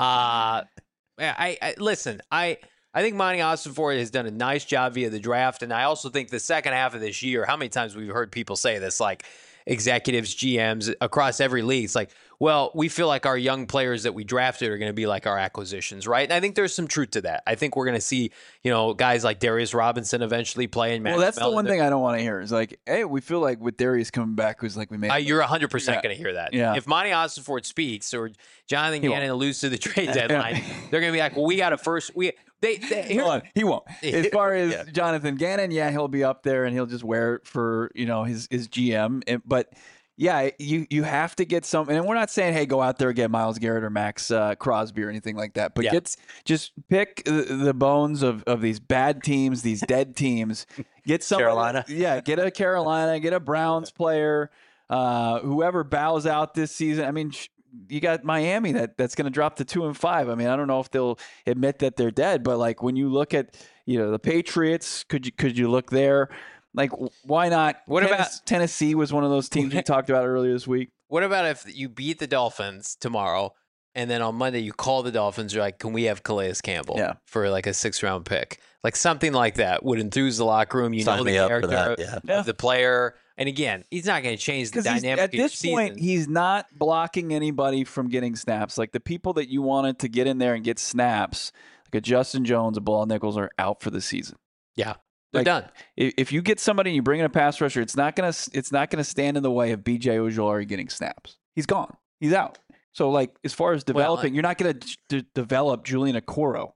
Listen. I think Monty Ossenfort has done a nice job via the draft, and I also think the second half of this year. How many times we've heard people say this, like executives, GMs across every league? It's like, well, we feel like our young players that we drafted are going to be like our acquisitions, right? And I think there's some truth to that. I think we're going to see, guys like Darius Robinson eventually play in. Well, that's the one thing I don't want to hear is like, hey, we feel like with Darius coming back, who's like we made. You're 100% going to hear that. Yeah. If Monty Ossenfort speaks or Jonathan Gannon alludes to the trade deadline, they're going to be like, well, we got a first. Hold on, he won't. As far as Jonathan Gannon, he'll be up there and he'll just wear it for his GM. But yeah, you have to get some. And we're not saying, hey, go out there and get Myles Garrett or Max Crosby or anything like that. But just pick the bones of these bad teams, these dead teams. Get some Carolina. Get a Carolina, get a Browns player, whoever bows out this season. I mean. You got Miami that's going to drop to 2-5. I mean, I don't know if they'll admit that they're dead, but like when you look at the Patriots, could you look there? Like why not? What about Tennessee? Was one of those teams we talked about earlier this week. What about if you beat the Dolphins tomorrow, and then on Monday you call the Dolphins? You're like, can we have Calais Campbell for like a 6th-round pick? Like something like that would enthuse the locker room. Sign the character of the player. And again, he's not going to change the dynamic. At this point, he's not blocking anybody from getting snaps. Like the people that you wanted to get in there and get snaps, like a Justin Jones, a Bilal Nichols, are out for the season. Yeah, they're done. If you get somebody and you bring in a pass rusher, it's not gonna stand in the way of B.J. Ojulari getting snaps. He's gone. He's out. So like as far as developing, you're not going to develop Julian Okoro.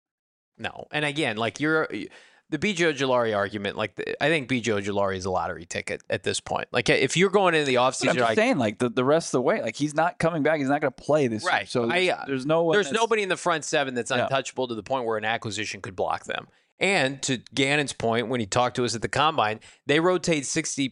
No, and again, like the B.J. Ojulari argument, like I think B.J. Ojulari is a lottery ticket at this point. Like if you're going into the offseason, I'm just saying, like the rest of the way, like he's not coming back. He's not going to play this year. So there's nobody in the front seven that's untouchable to the point where an acquisition could block them. And to Gannon's point, when he talked to us at the combine, they rotate 60%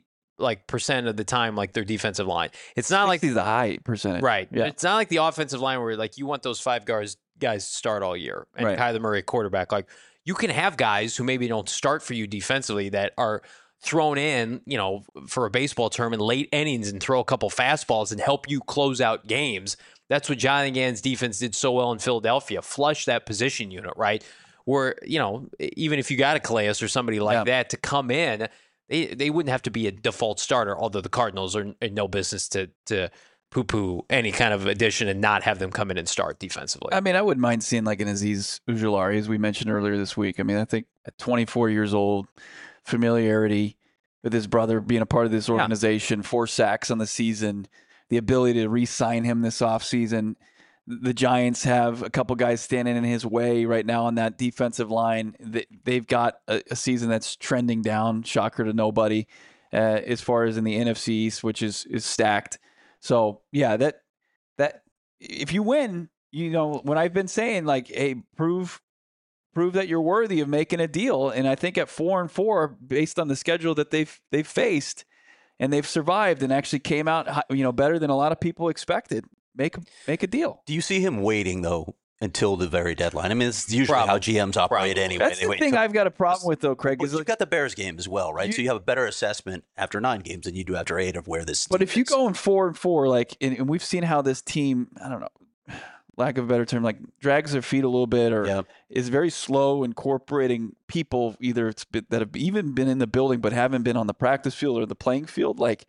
of the time, like their defensive line. It's not like the high percentage, right? Yeah. It's not like the offensive line where like you want those 5 guys to start all year and Kyler Murray quarterback. Like you can have guys who maybe don't start for you defensively that are thrown in, for a baseball term in late innings and throw a couple fastballs and help you close out games. That's what Jonathan Gannon's defense did so well in Philadelphia. Flush that position unit, right? Where, even if you got a Calais or somebody like that to come in, they wouldn't have to be a default starter, although the Cardinals are in no business to poo-poo any kind of addition and not have them come in and start defensively. I mean, I wouldn't mind seeing like an Azeez Ojulari, as we mentioned earlier this week. I mean, I think at 24 years old, familiarity with his brother being a part of this organization, 4 sacks on the season, the ability to re-sign him this offseason. The Giants have a couple guys standing in his way right now on that defensive line. They've got a season that's trending down, shocker to nobody, as far as in the NFC East, which is stacked. So yeah, that if you win, when I've been saying like, hey, prove that you're worthy of making a deal, and I think at 4-4, based on the schedule that they've faced, and they've survived and actually came out, better than a lot of people expected. Make a deal. Do you see him waiting though until the very deadline? I mean, it's usually how GMs operate anyway. That's the thing I've got a problem with though, Craig. Is you've got the Bears game as well, right? So you have a better assessment after 9 games than you do after 8 of where this. But if you go in 4-4, like, and we've seen how this team, I don't know, lack of a better term, like drags their feet a little bit, or is very slow incorporating people either that have even been in the building but haven't been on the practice field or the playing field, like.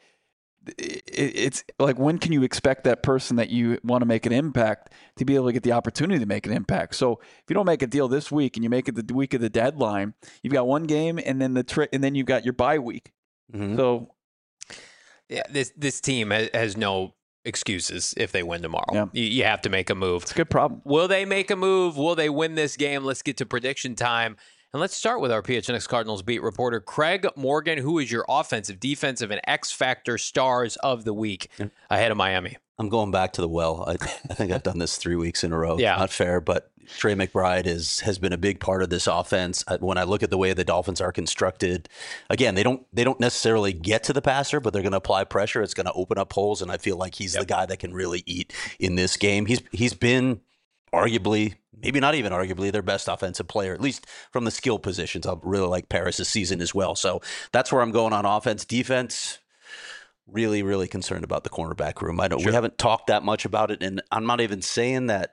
It's like, when can you expect that person that you want to make an impact to be able to get the opportunity to make an impact? So if you don't make a deal this week and you make it the week of the deadline, you've got one game and then and then you've got your bye week. Mm-hmm. So yeah, this team has no excuses if they win tomorrow. Yeah. You have to make a move. It's a good problem. Will they make a move? Will they win this game? Let's get to prediction time. And let's start with our PHNX Cardinals beat reporter, Craig Morgan. Who is your offensive, defensive, and X-Factor stars of the week ahead of Miami? I'm going back to the well. I think I've done this 3 weeks in a row. Yeah. Not fair, but Trey McBride has been a big part of this offense. When I look at the way the Dolphins are constructed, again, they don't necessarily get to the passer, but they're going to apply pressure. It's going to open up holes, and I feel like he's the guy that can really eat in this game. He's been arguably, maybe not even arguably, their best offensive player, at least from the skill positions. I really like Paris this season as well. So that's where I'm going on offense. Defense, really, really concerned about the cornerback room. I know we haven't talked that much about it, and I'm not even saying that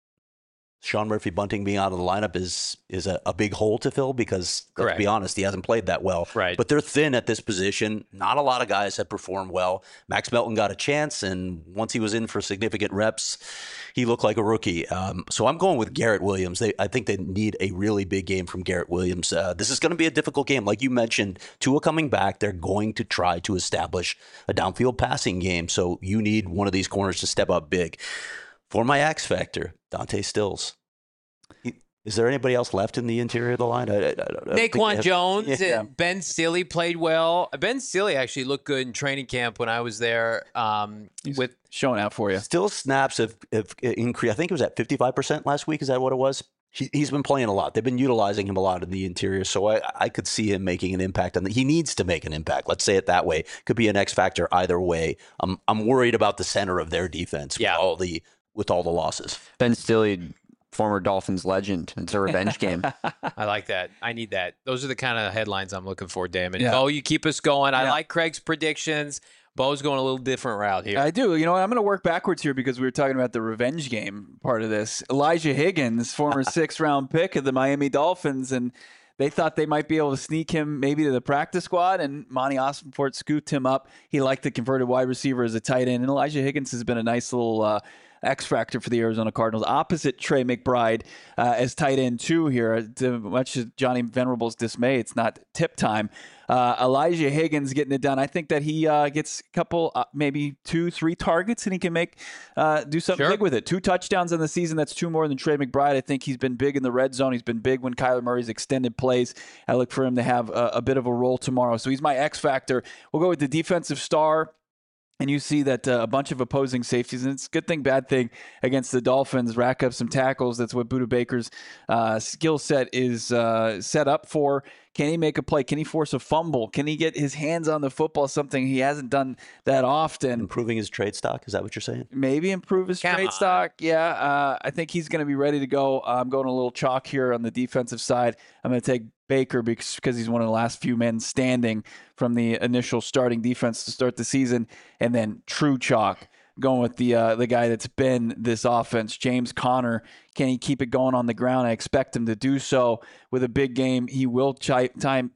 Sean Murphy-Bunting being out of the lineup is a big hole to fill because, let's be honest, he hasn't played that well. Right. But they're thin at this position. Not a lot of guys have performed well. Max Melton got a chance, and once he was in for significant reps, he looked like a rookie. So I'm going with Garrett Williams. I think they need a really big game from Garrett Williams. This is going to be a difficult game. Like you mentioned, Tua coming back, they're going to try to establish a downfield passing game. So you need one of these corners to step up big. For my X factor, Dante Stills. Is there anybody else left in the interior of the line? Naquan Jones, Ben Stille played well. Ben Stille actually looked good in training camp when I was there. With showing out for you. Still snaps have increased. I think it was at 55% last week. Is that what it was? He's been playing a lot. They've been utilizing him a lot in the interior, so I could see him making an impact. He needs to make an impact. Let's say it that way. Could be an X factor either way. I'm worried about the center of their defense with all the losses. Ben Stille, former Dolphins legend. It's a revenge game. I like that. I need that. Those are the kind of headlines I'm looking for, Damon. Yeah. Bo, you keep us going. I like Craig's predictions. Bo's going a little different route here. I do. You know what? I'm going to work backwards here because we were talking about the revenge game part of this. Elijah Higgins, former 6th-round pick of the Miami Dolphins, and they thought they might be able to sneak him maybe to the practice squad, and Monty Ossenfort scooped him up. He liked the converted wide receiver as a tight end, and Elijah Higgins has been a nice little X factor for the Arizona Cardinals, opposite Trey McBride as tight end 2 here. To much to Johnny Venerable's dismay, it's not tip time. Elijah Higgins getting it done. I think that he gets a couple, maybe 2-3 targets, and he can do something big with it. 2 touchdowns in the season. That's 2 more than Trey McBride. I think he's been big in the red zone. He's been big when Kyler Murray's extended plays. I look for him to have a bit of a role tomorrow. So he's my X factor. We'll go with the defensive star. And you see that a bunch of opposing safeties, and it's a good thing, bad thing against the Dolphins, rack up some tackles. That's what Budda Baker's skill set is set up for. Can he make a play? Can he force a fumble? Can he get his hands on the football, something he hasn't done that often? Improving his trade stock? Is that what you're saying? Maybe improve his trade stock. Yeah, I think he's going to be ready to go. I'm going a little chalk here on the defensive side. I'm going to take Baker because he's one of the last few men standing from the initial starting defense to start the season. And then true chalk, going with the guy that's been this offense, James Conner. Can he keep it going on the ground? I expect him to do so. With a big game, he will tap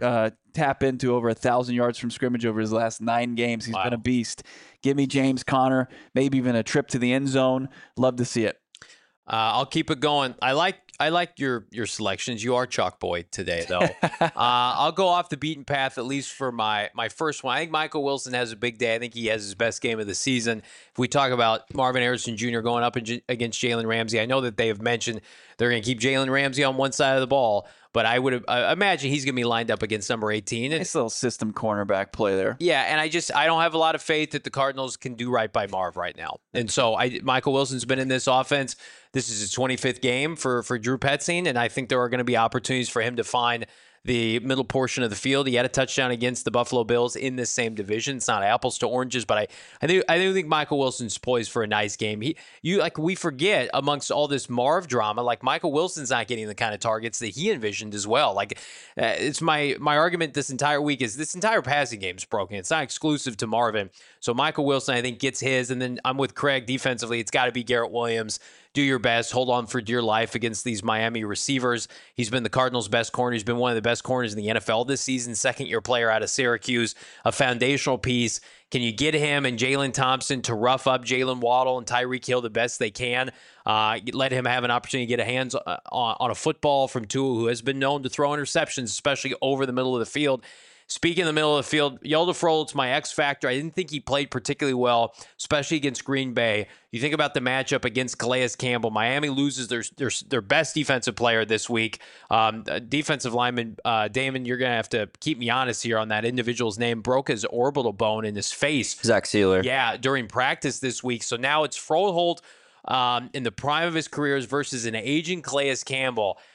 into over 1,000 yards from scrimmage over his last 9 games. He's been a beast. Give me James Conner, maybe even a trip to the end zone. Love to see it. I'll keep it going. I like your selections. You are chalk boy today, though. I'll go off the beaten path, at least for my first one. I think Michael Wilson has a big day. I think he has his best game of the season. If we talk about Marvin Harrison Jr. going up against Jalen Ramsey, I know that they have mentioned they're going to keep Jalen Ramsey on one side of the ball, but I would imagine he's going to be lined up against number 18. Nice little system cornerback play there. Yeah, and I don't have a lot of faith that the Cardinals can do right by Marv right now. And so Michael Wilson's been in this offense. This is his 25th game for Drew Petzing, and I think there are going to be opportunities for him to find the middle portion of the field. He had a touchdown against the Buffalo Bills in this same division. It's not apples to oranges, but I do think Michael Wilson's poised for a nice game. We forget amongst all this Marv drama, like Michael Wilson's not getting the kind of targets that he envisioned as well. Like it's my argument this entire week is this entire passing game is broken. It's not exclusive to Marvin. So Michael Wilson, I think, gets his, and then I'm with Craig defensively. It's got to be Garrett Williams. Do your best. Hold on for dear life against these Miami receivers. He's been the Cardinals' best corner. He's been one of the best corners in the NFL this season. Second-year player out of Syracuse. A foundational piece. Can you get him and Jalen Thompson to rough up Jalen Waddle and Tyreek Hill the best they can? Let him have an opportunity to get a hands on a football from Tua, who has been known to throw interceptions, especially over the middle of the field. Speaking of the middle of the field, Hjalte Froholdt's my X factor. I didn't think he played particularly well, especially against Green Bay. You think about the matchup against Calais Campbell. Miami loses their best defensive player this week. Defensive lineman, Damon, you're going to have to keep me honest here on that individual's name. Broke his orbital bone in his face. Zach Sealer. Yeah, during practice this week. So now it's Froholdt in the prime of his careers versus an aging Calais Campbell.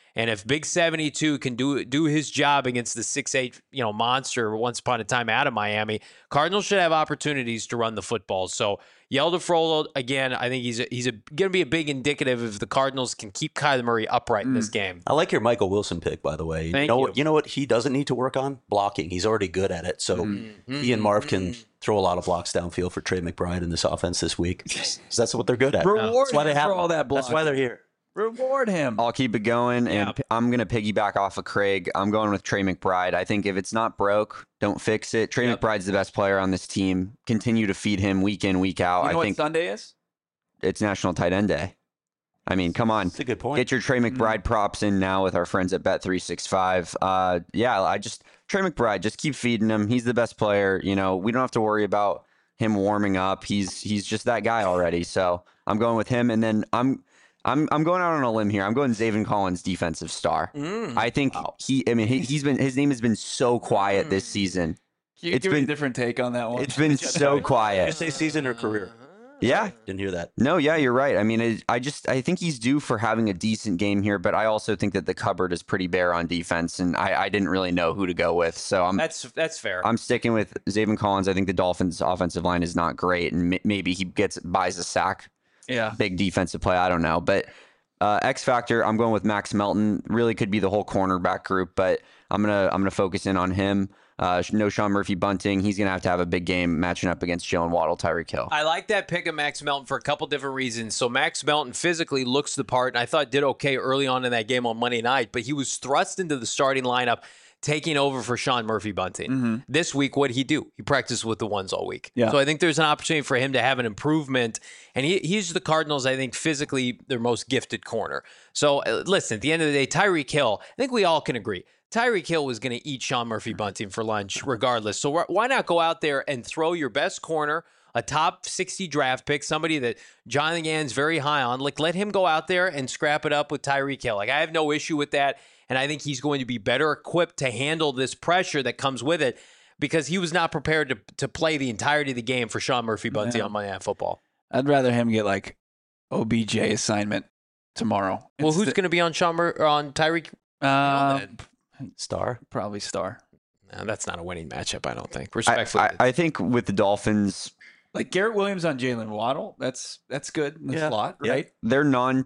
And if Big 72 can do his job against the 6'8", monster once upon a time out of Miami, Cardinals should have opportunities to run the football. So Hjalte Froholdt, again, I think he's going to be a big indicative if the Cardinals can keep Kyler Murray upright in this game. I like your Michael Wilson pick, by the way. Thank you. You know what he doesn't need to work on? Blocking. He's already good at it. So he and Marv can throw a lot of blocks downfield for Trey McBride in this offense this week. So that's what they're good at. Reward That's why they him have for all that blocking. That's why they're here. Reward him. I'll keep it going, and Yeah. I'm going to piggyback off of Craig. I'm going with Trey McBride. I think if it's not broke, don't fix it. Trey McBride's the best player on this team. Continue to feed him week in, week out. You know I think what Sunday is? it's National Tight End Day. I mean, come on. That's a good point. Get your Trey McBride props in now with our friends at Bet365. Trey McBride, just keep feeding him. He's the best player. We don't have to worry about him warming up. He's just that guy already. So I'm going with him, and then I'm going out on a limb here. I'm going Zaven Collins, defensive star. I think his name has been so quiet this season. Can you give me a different take on that one? It's been so Did you quiet. say season or career? Yeah. Didn't hear that. No, yeah, you're right. I mean, I think he's due for having a decent game here, but I also think that the cupboard is pretty bare on defense, and I didn't really know who to go with. So That's fair. I'm sticking with Zaven Collins. I think the Dolphins' offensive line is not great, and maybe he buys a sack. Yeah. Big defensive play. I don't know. But X Factor, I'm going with Max Melton. Really could be the whole cornerback group, but I'm gonna focus in on him. No Sean Murphy Bunting. He's gonna have to have a big game matching up against Jalen Waddle, Tyreek Hill. I like that pick of Max Melton for a couple different reasons. So Max Melton physically looks the part, and I thought did okay early on in that game on Monday night, but he was thrust into the starting lineup, taking over for Sean Murphy Bunting. This week, what did he do? He practiced with the ones all week. Yeah. So I think there's an opportunity for him to have an improvement. And he's the Cardinals, I think, physically their most gifted corner. So listen, at the end of the day, Tyreek Hill, I think we all can agree. Tyreek Hill was going to eat Sean Murphy Bunting for lunch regardless. So why not go out there and throw your best corner, a top 60 draft pick, somebody that Jonathan Gannon's very high on. Let him go out there and scrap it up with Tyreek Hill. I have no issue with that. And I think he's going to be better equipped to handle this pressure that comes with it because he was not prepared to play the entirety of the game for Sean Murphy Bunting on Monday Night Football. I'd rather him get like OBJ assignment tomorrow. Well, who's going to be on on Tyreek? Star? Probably Star. No, that's not a winning matchup, I don't think. Respectfully. I think with the Dolphins, Like Garrett Williams on Jalen Waddle. That's good in the slot, right? they're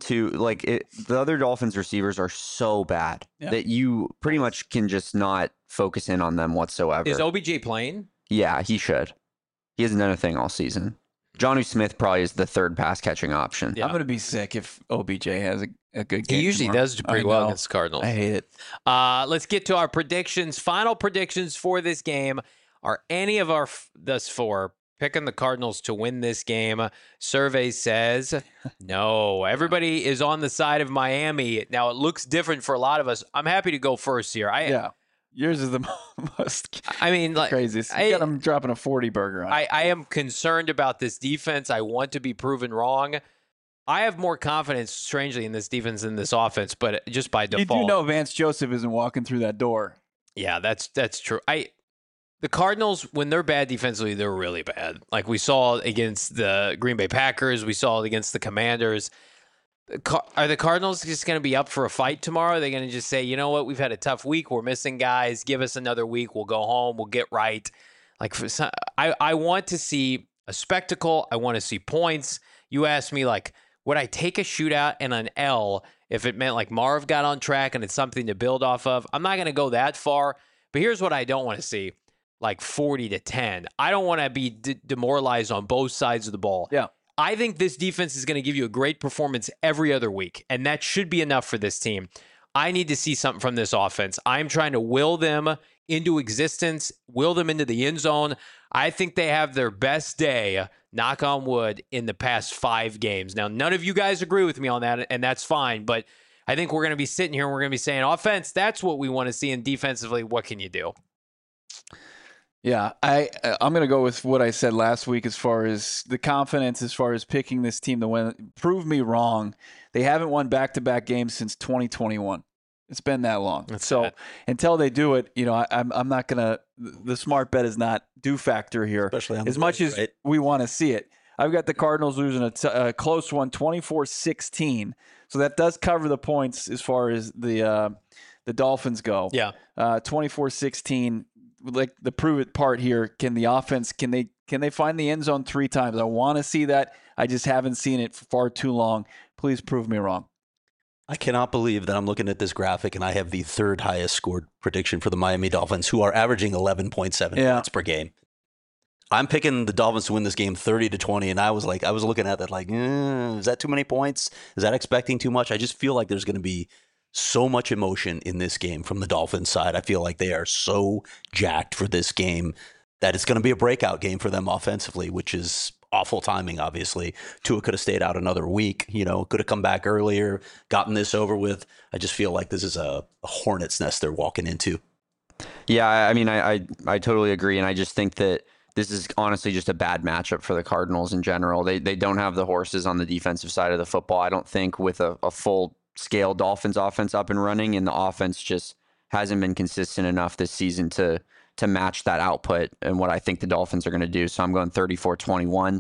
the other Dolphins receivers are so bad that you pretty much can just not focus in on them whatsoever. Is OBJ playing? Yeah, he should. He hasn't done a thing all season. Jonnu Smith probably is the third pass catching option. Yeah. I'm gonna be sick if OBJ has a good game. He usually tomorrow. does do pretty I well know. against the Cardinals. I hate it. Let's get to our predictions. Final predictions for this game. Are any of our thus four picking the Cardinals to win this game? Survey says no. Everybody is on the side of Miami. Now, it looks different for a lot of us. I'm happy to go first here. Yours is the most I mean, like, craziest. You got him dropping a 40 burger on. I am concerned about this defense. I want to be proven wrong. I have more confidence, strangely, in this defense than this offense, but just by default. You do know Vance Joseph isn't walking through that door. Yeah, that's true. The Cardinals, when they're bad defensively, they're really bad. Like we saw against the Green Bay Packers, we saw it against the Commanders. Are the Cardinals just going to be up for a fight tomorrow? Are they going to just say, you know what, we've had a tough week, we're missing guys, give us another week, we'll go home, we'll get right? Like I want to see a spectacle. I want to see points. You asked me, like, would I take a shootout and an L if it meant like Marv got on track and it's something to build off of? I'm not going to go that far, but here's what I don't want to see. Like 40-10. I don't want to be demoralized on both sides of the ball. Yeah. I think this defense is going to give you a great performance every other week, and that should be enough for this team. I need to see something from this offense. I'm trying to will them into existence, will them into the end zone. I think they have their best day, knock on wood, in the past 5 games. Now, none of you guys agree with me on that, and that's fine, but I think we're going to be sitting here and we're going to be saying, offense, that's what we want to see, and defensively, what can you do? Yeah, I'm going to go with what I said last week as far as the confidence, as far as picking this team to win. Prove me wrong. They haven't won back-to-back games since 2021. It's been that long. Until they do it, I'm not going to – the smart bet is not do factor here. Especially on as the much road, as right? we want to see it. I've got the Cardinals losing a close one, 24-16. So that does cover the points as far as the Dolphins go. Yeah. 24-16. Like the prove it part here. Can the offense? Can they find the end zone 3 times? I want to see that. I just haven't seen it for far too long. Please prove me wrong. I cannot believe that I'm looking at this graphic and I have the 3rd highest scored prediction for the Miami Dolphins, who are averaging 11.7 points per game. I'm picking the Dolphins to win this game 30-20, and I was looking at that like, is that too many points? Is that expecting too much? I just feel like there's going to be so much emotion in this game from the Dolphins side. I feel like they are so jacked for this game that it's going to be a breakout game for them offensively, which is awful timing, obviously. Tua could have stayed out another week, could have come back earlier, gotten this over with. I just feel like this is a hornet's nest they're walking into. Yeah, I mean, I totally agree, and I just think that this is honestly just a bad matchup for the Cardinals in general. They don't have the horses on the defensive side of the football. I don't think with a full-scale Dolphins offense up and running, and the offense just hasn't been consistent enough this season to match that output and what I think the Dolphins are going to do. So I'm going 34-21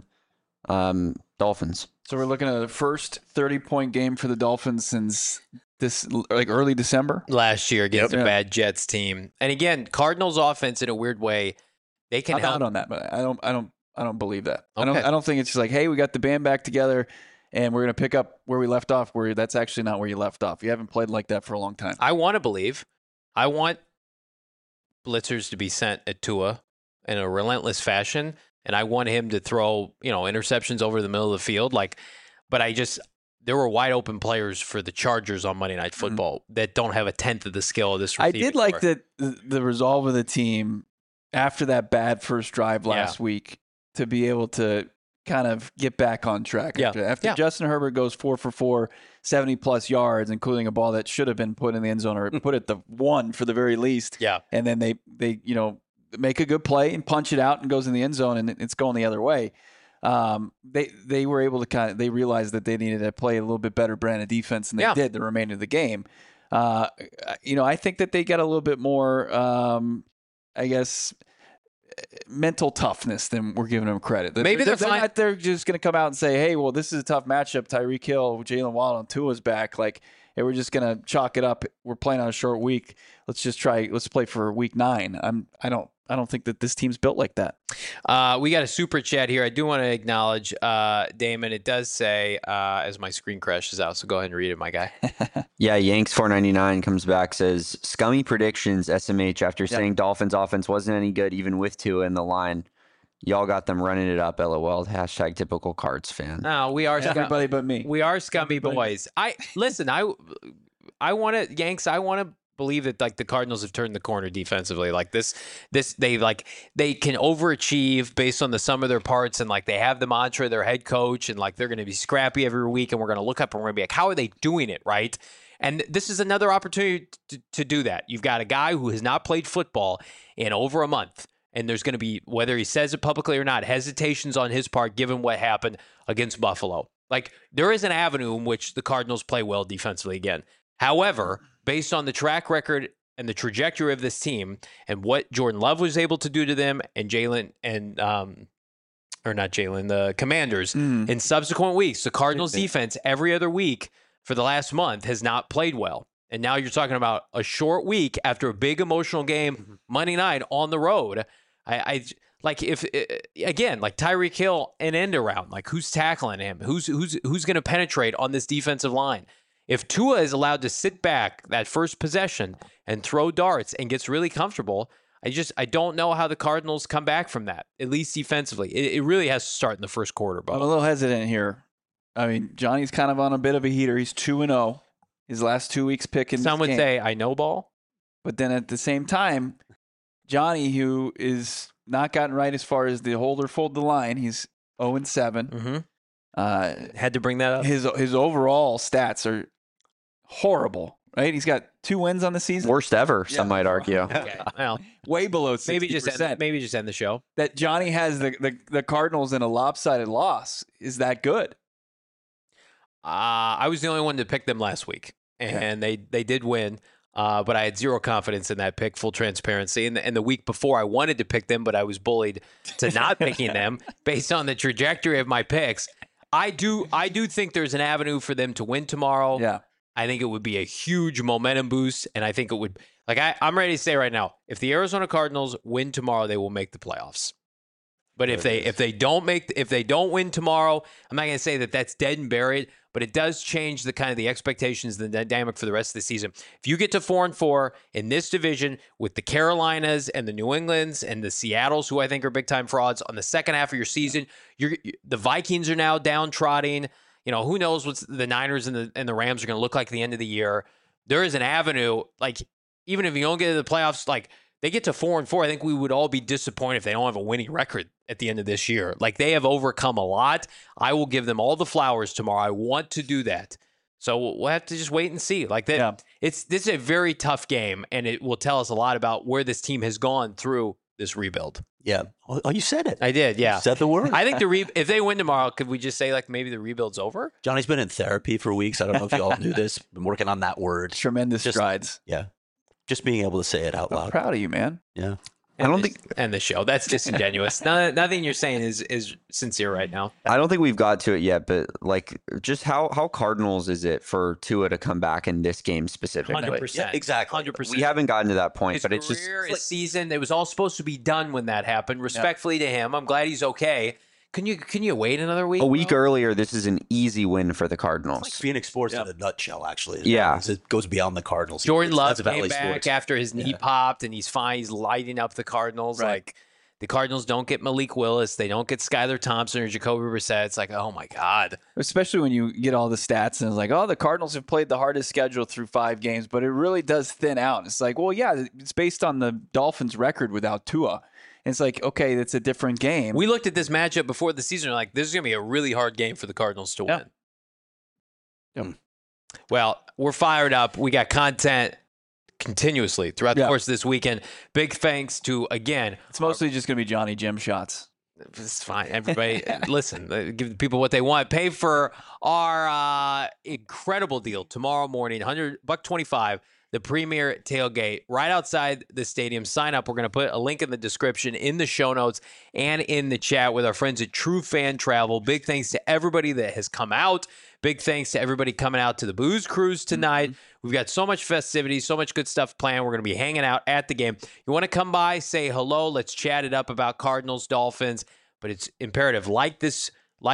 Dolphins. So we're looking at the first 30-point game for the Dolphins since this early December last year against a bad Jets team. And again, Cardinals offense in a weird way, they can help. I'm out on that, but I don't believe that. Okay. I don't think it's just like, hey, we got the band back together and we're going to pick up where we left off. Where that's actually not where you left off. You haven't played like that for a long time. I want to believe. I want blitzers to be sent at Tua in a relentless fashion, and I want him to throw, interceptions over the middle of the field. But there were wide open players for the Chargers on Monday Night Football that don't have a tenth of the skill of this receiving. I did like the resolve of the team after that bad first drive last week to be able to kind of get back on track. After Justin Herbert goes 4 for 4, 70-plus yards, including a ball that should have been put in the end zone or put at the 1 for the very least. Yeah. And then they make a good play and punch it out and goes in the end zone and it's going the other way. They were able to they realized that they needed to play a little bit better brand of defense than they did the remainder of the game. I think that they got a little bit more, mental toughness than we're giving them credit. Maybe they're just going to come out and say, hey, well, this is a tough matchup. Tyreek Hill, Jalen Waddle, and Tua's back. Hey, we're just going to chalk it up. We're playing on a short week. Let's play for week 9. I don't think that this team's built like that. We got a super chat here. I do want to acknowledge, Damon. It does say, as my screen crashes out, so go ahead and read it, my guy. Yeah, Yanks499 comes back, says, scummy predictions, SMH, after saying Dolphins offense wasn't any good, even with Tua in the line. Y'all got them running it up, LOL. # typical Cards fan. No, we are everybody but me. We are scummy boys. I want to, Yanks, I want to believe that the Cardinals have turned the corner defensively. They can overachieve based on the sum of their parts, and they have the mantra, their head coach, and they're going to be scrappy every week, and we're going to look up and we're going to be like, how are they doing it, right? And this is another opportunity to do that. You've got a guy who has not played football in over a month, and there's going to be, whether he says it publicly or not, hesitations on his part given what happened against Buffalo. There is an avenue in which the Cardinals play well defensively again. However, based on the track record and the trajectory of this team and what Jordan Love was able to do to them and the Commanders in subsequent weeks, the Cardinals defense every other week for the last month has not played well. And now you're talking about a short week after a big emotional game Monday night on the road. If Tyreek Hill an end around, who's tackling him? Who's going to penetrate on this defensive line? If Tua is allowed to sit back that first possession and throw darts and gets really comfortable, I don't know how the Cardinals come back from that, at least defensively. It really has to start in the first quarter, Bo. I'm a little hesitant here. I mean, Johnny's kind of on a bit of a heater. He's 2-0. His last 2 weeks picking. Some would say, I know ball. But then at the same time, Johnny, who is not gotten right as far as the hold or fold the line, he's 0-7. Had to bring that up. His overall stats are horrible, right? He's got 2 wins on the season. Worst ever, some might argue. Okay. Well, way below 60%. Maybe just end the show. That Johnny has the Cardinals in a lopsided loss is that good. I was the only one to pick them last week, and they did win. But I had zero confidence in that pick, full transparency. And the week before, I wanted to pick them, but I was bullied to not picking them based on the trajectory of my picks. I do think there's an avenue for them to win tomorrow. Yeah. I think it would be a huge momentum boost, and I think it would. Like I'm ready to say right now, if the Arizona Cardinals win tomorrow, they will make the playoffs. But if they don't win tomorrow, I'm not going to say that that's dead and buried, but it does change the kind of the expectations, the dynamic for the rest of the season. If you get to 4-4 in this division with the Carolinas and the New Englands and the Seattles, who I think are big time frauds on the second half of your season, the Vikings are now downtrodden. Who knows what the Niners and the Rams are going to look like at the end of the year. There is an avenue, like even if you don't get to the playoffs, like they get to 4-4, I think we would all be disappointed if they don't have a winning record at the end of this year. Like they have overcome a lot. I will give them all the flowers tomorrow. I want to do that. So we'll have to just wait and see. Like that, this is a very tough game, and it will tell us a lot about where this team has gone through this rebuild. Yeah. Oh, you said it. I did, yeah. You said the word. I think if they win tomorrow, could we just say like maybe the rebuild's over? Johnny's been in therapy for weeks. I don't know if you all knew this. Been working on that word. Tremendous strides. Yeah. Just being able to say it out loud. I'm proud of you, man. Yeah. I don't think the show. That's disingenuous. Nothing you're saying is sincere right now. I don't think we've got to it yet, but like, just how Cardinals is it for Tua to come back in this game specifically? 100%. Yeah, exactly. 100%. We haven't gotten to that point, His but it's just career, his season. It was all supposed to be done when that happened. Respectfully to him, I'm glad he's okay. Can you wait another week? a week earlier. This is an easy win for the Cardinals. It's like Phoenix Sports in a nutshell, actually. Yeah. It goes beyond the Cardinals. Jordan Love That's came Valley back Sports. after his knee popped, and he's fine. He's lighting up the Cardinals. Right. Like the Cardinals don't get Malik Willis, they don't get Skylar Thompson or Jacoby Brissett. It's like, oh my god. Especially when you get all the stats and it's like, oh, the Cardinals have played the hardest schedule through 5 games, but it really does thin out. It's like, well, yeah, it's based on the Dolphins' record without Tua. And it's like, okay, that's a different game. We looked at this matchup before the season. We're like, this is going to be a really hard game for the Cardinals to win. Yep. Well, we're fired up. We got content continuously throughout the course of this weekend. Big thanks to, again, It's mostly just going to be Johnny Jim shots. it's fine. Everybody, listen, give the people what they want. Pay for our incredible deal tomorrow morning, $125. The premier tailgate right outside the stadium. Sign up. We're going to put a link in the description, in the show notes, and in the chat with our friends at True Fan Travel. Big thanks to everybody that has come out. Big thanks to everybody coming out to the Booze Cruise tonight. We've got so much festivities, so much good stuff planned. We're going to be hanging out at the game. You want to come by, say hello. Let's chat it up about Cardinals, Dolphins. But it's imperative. Like this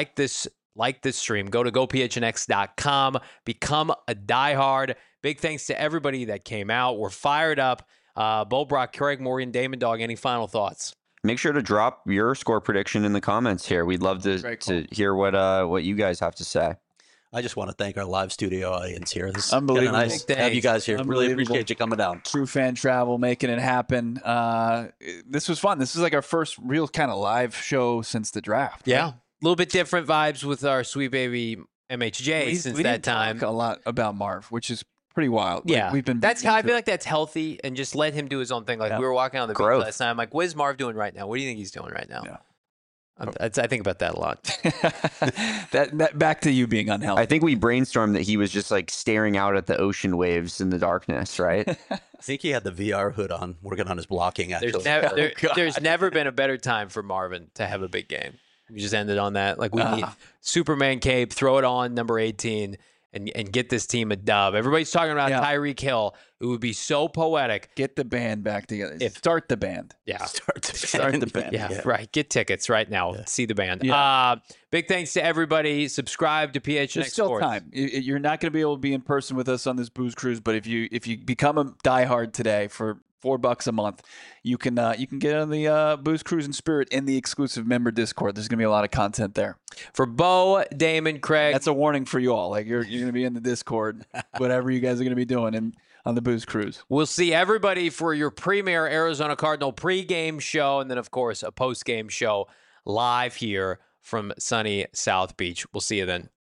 stream. Go to gophnx.com. Become a diehard. Big thanks to everybody that came out. We're fired up. Bo Brock, Craig Morgan, Damon Dog, any final thoughts? Make sure to drop your score prediction in the comments here. We'd love to hear what you guys have to say. I just want to thank our live studio audience here. This is Unbelievable. nice to have you guys here. Really appreciate you coming down. True Fan Travel making it happen. This was fun. This is like our first real kind of live show since the draft. Yeah. Right? A little bit different vibes with our sweet baby MHJ since we that didn't time. talk a lot about Marv, which is pretty wild. Yeah, Like, we've been. I feel like that's healthy, and just let him do his own thing. Like we were walking on the beach Growth. last night. I'm like, what is Marv doing right now? What do you think he's doing right now? Yeah. I think about that a lot. that back to you being unhealthy. I think we brainstormed that he was just like staring out at the ocean waves in the darkness, right? I think he had the VR hood on, working on his blocking, actually. There's never been a better time for Marvin to have a big game. We just ended on that. Like we need Superman cape, throw it on number 18, and get this team a dub. Everybody's talking about Tyreek Hill. It would be so poetic. Get the band back together. Start the band. Yeah. Start the band. Yeah, right. Get tickets right now. Yeah. See the band. Yeah. Big thanks to everybody. Subscribe to PHNX There's still Sports. time. You're not going to be able to be in person with us on this Booze Cruise, but if you become a diehard today for $4 a month, you can get on the Booze Cruise and Spirit in the exclusive member Discord. There's going to be a lot of content there. For Bo, Damon, Craig. That's a warning for you all. Like you're going to be in the Discord, whatever you guys are going to be doing on the Booze Cruise. We'll see everybody for your premier Arizona Cardinal pregame show, and then of course a postgame show live here from sunny South Beach. We'll see you then.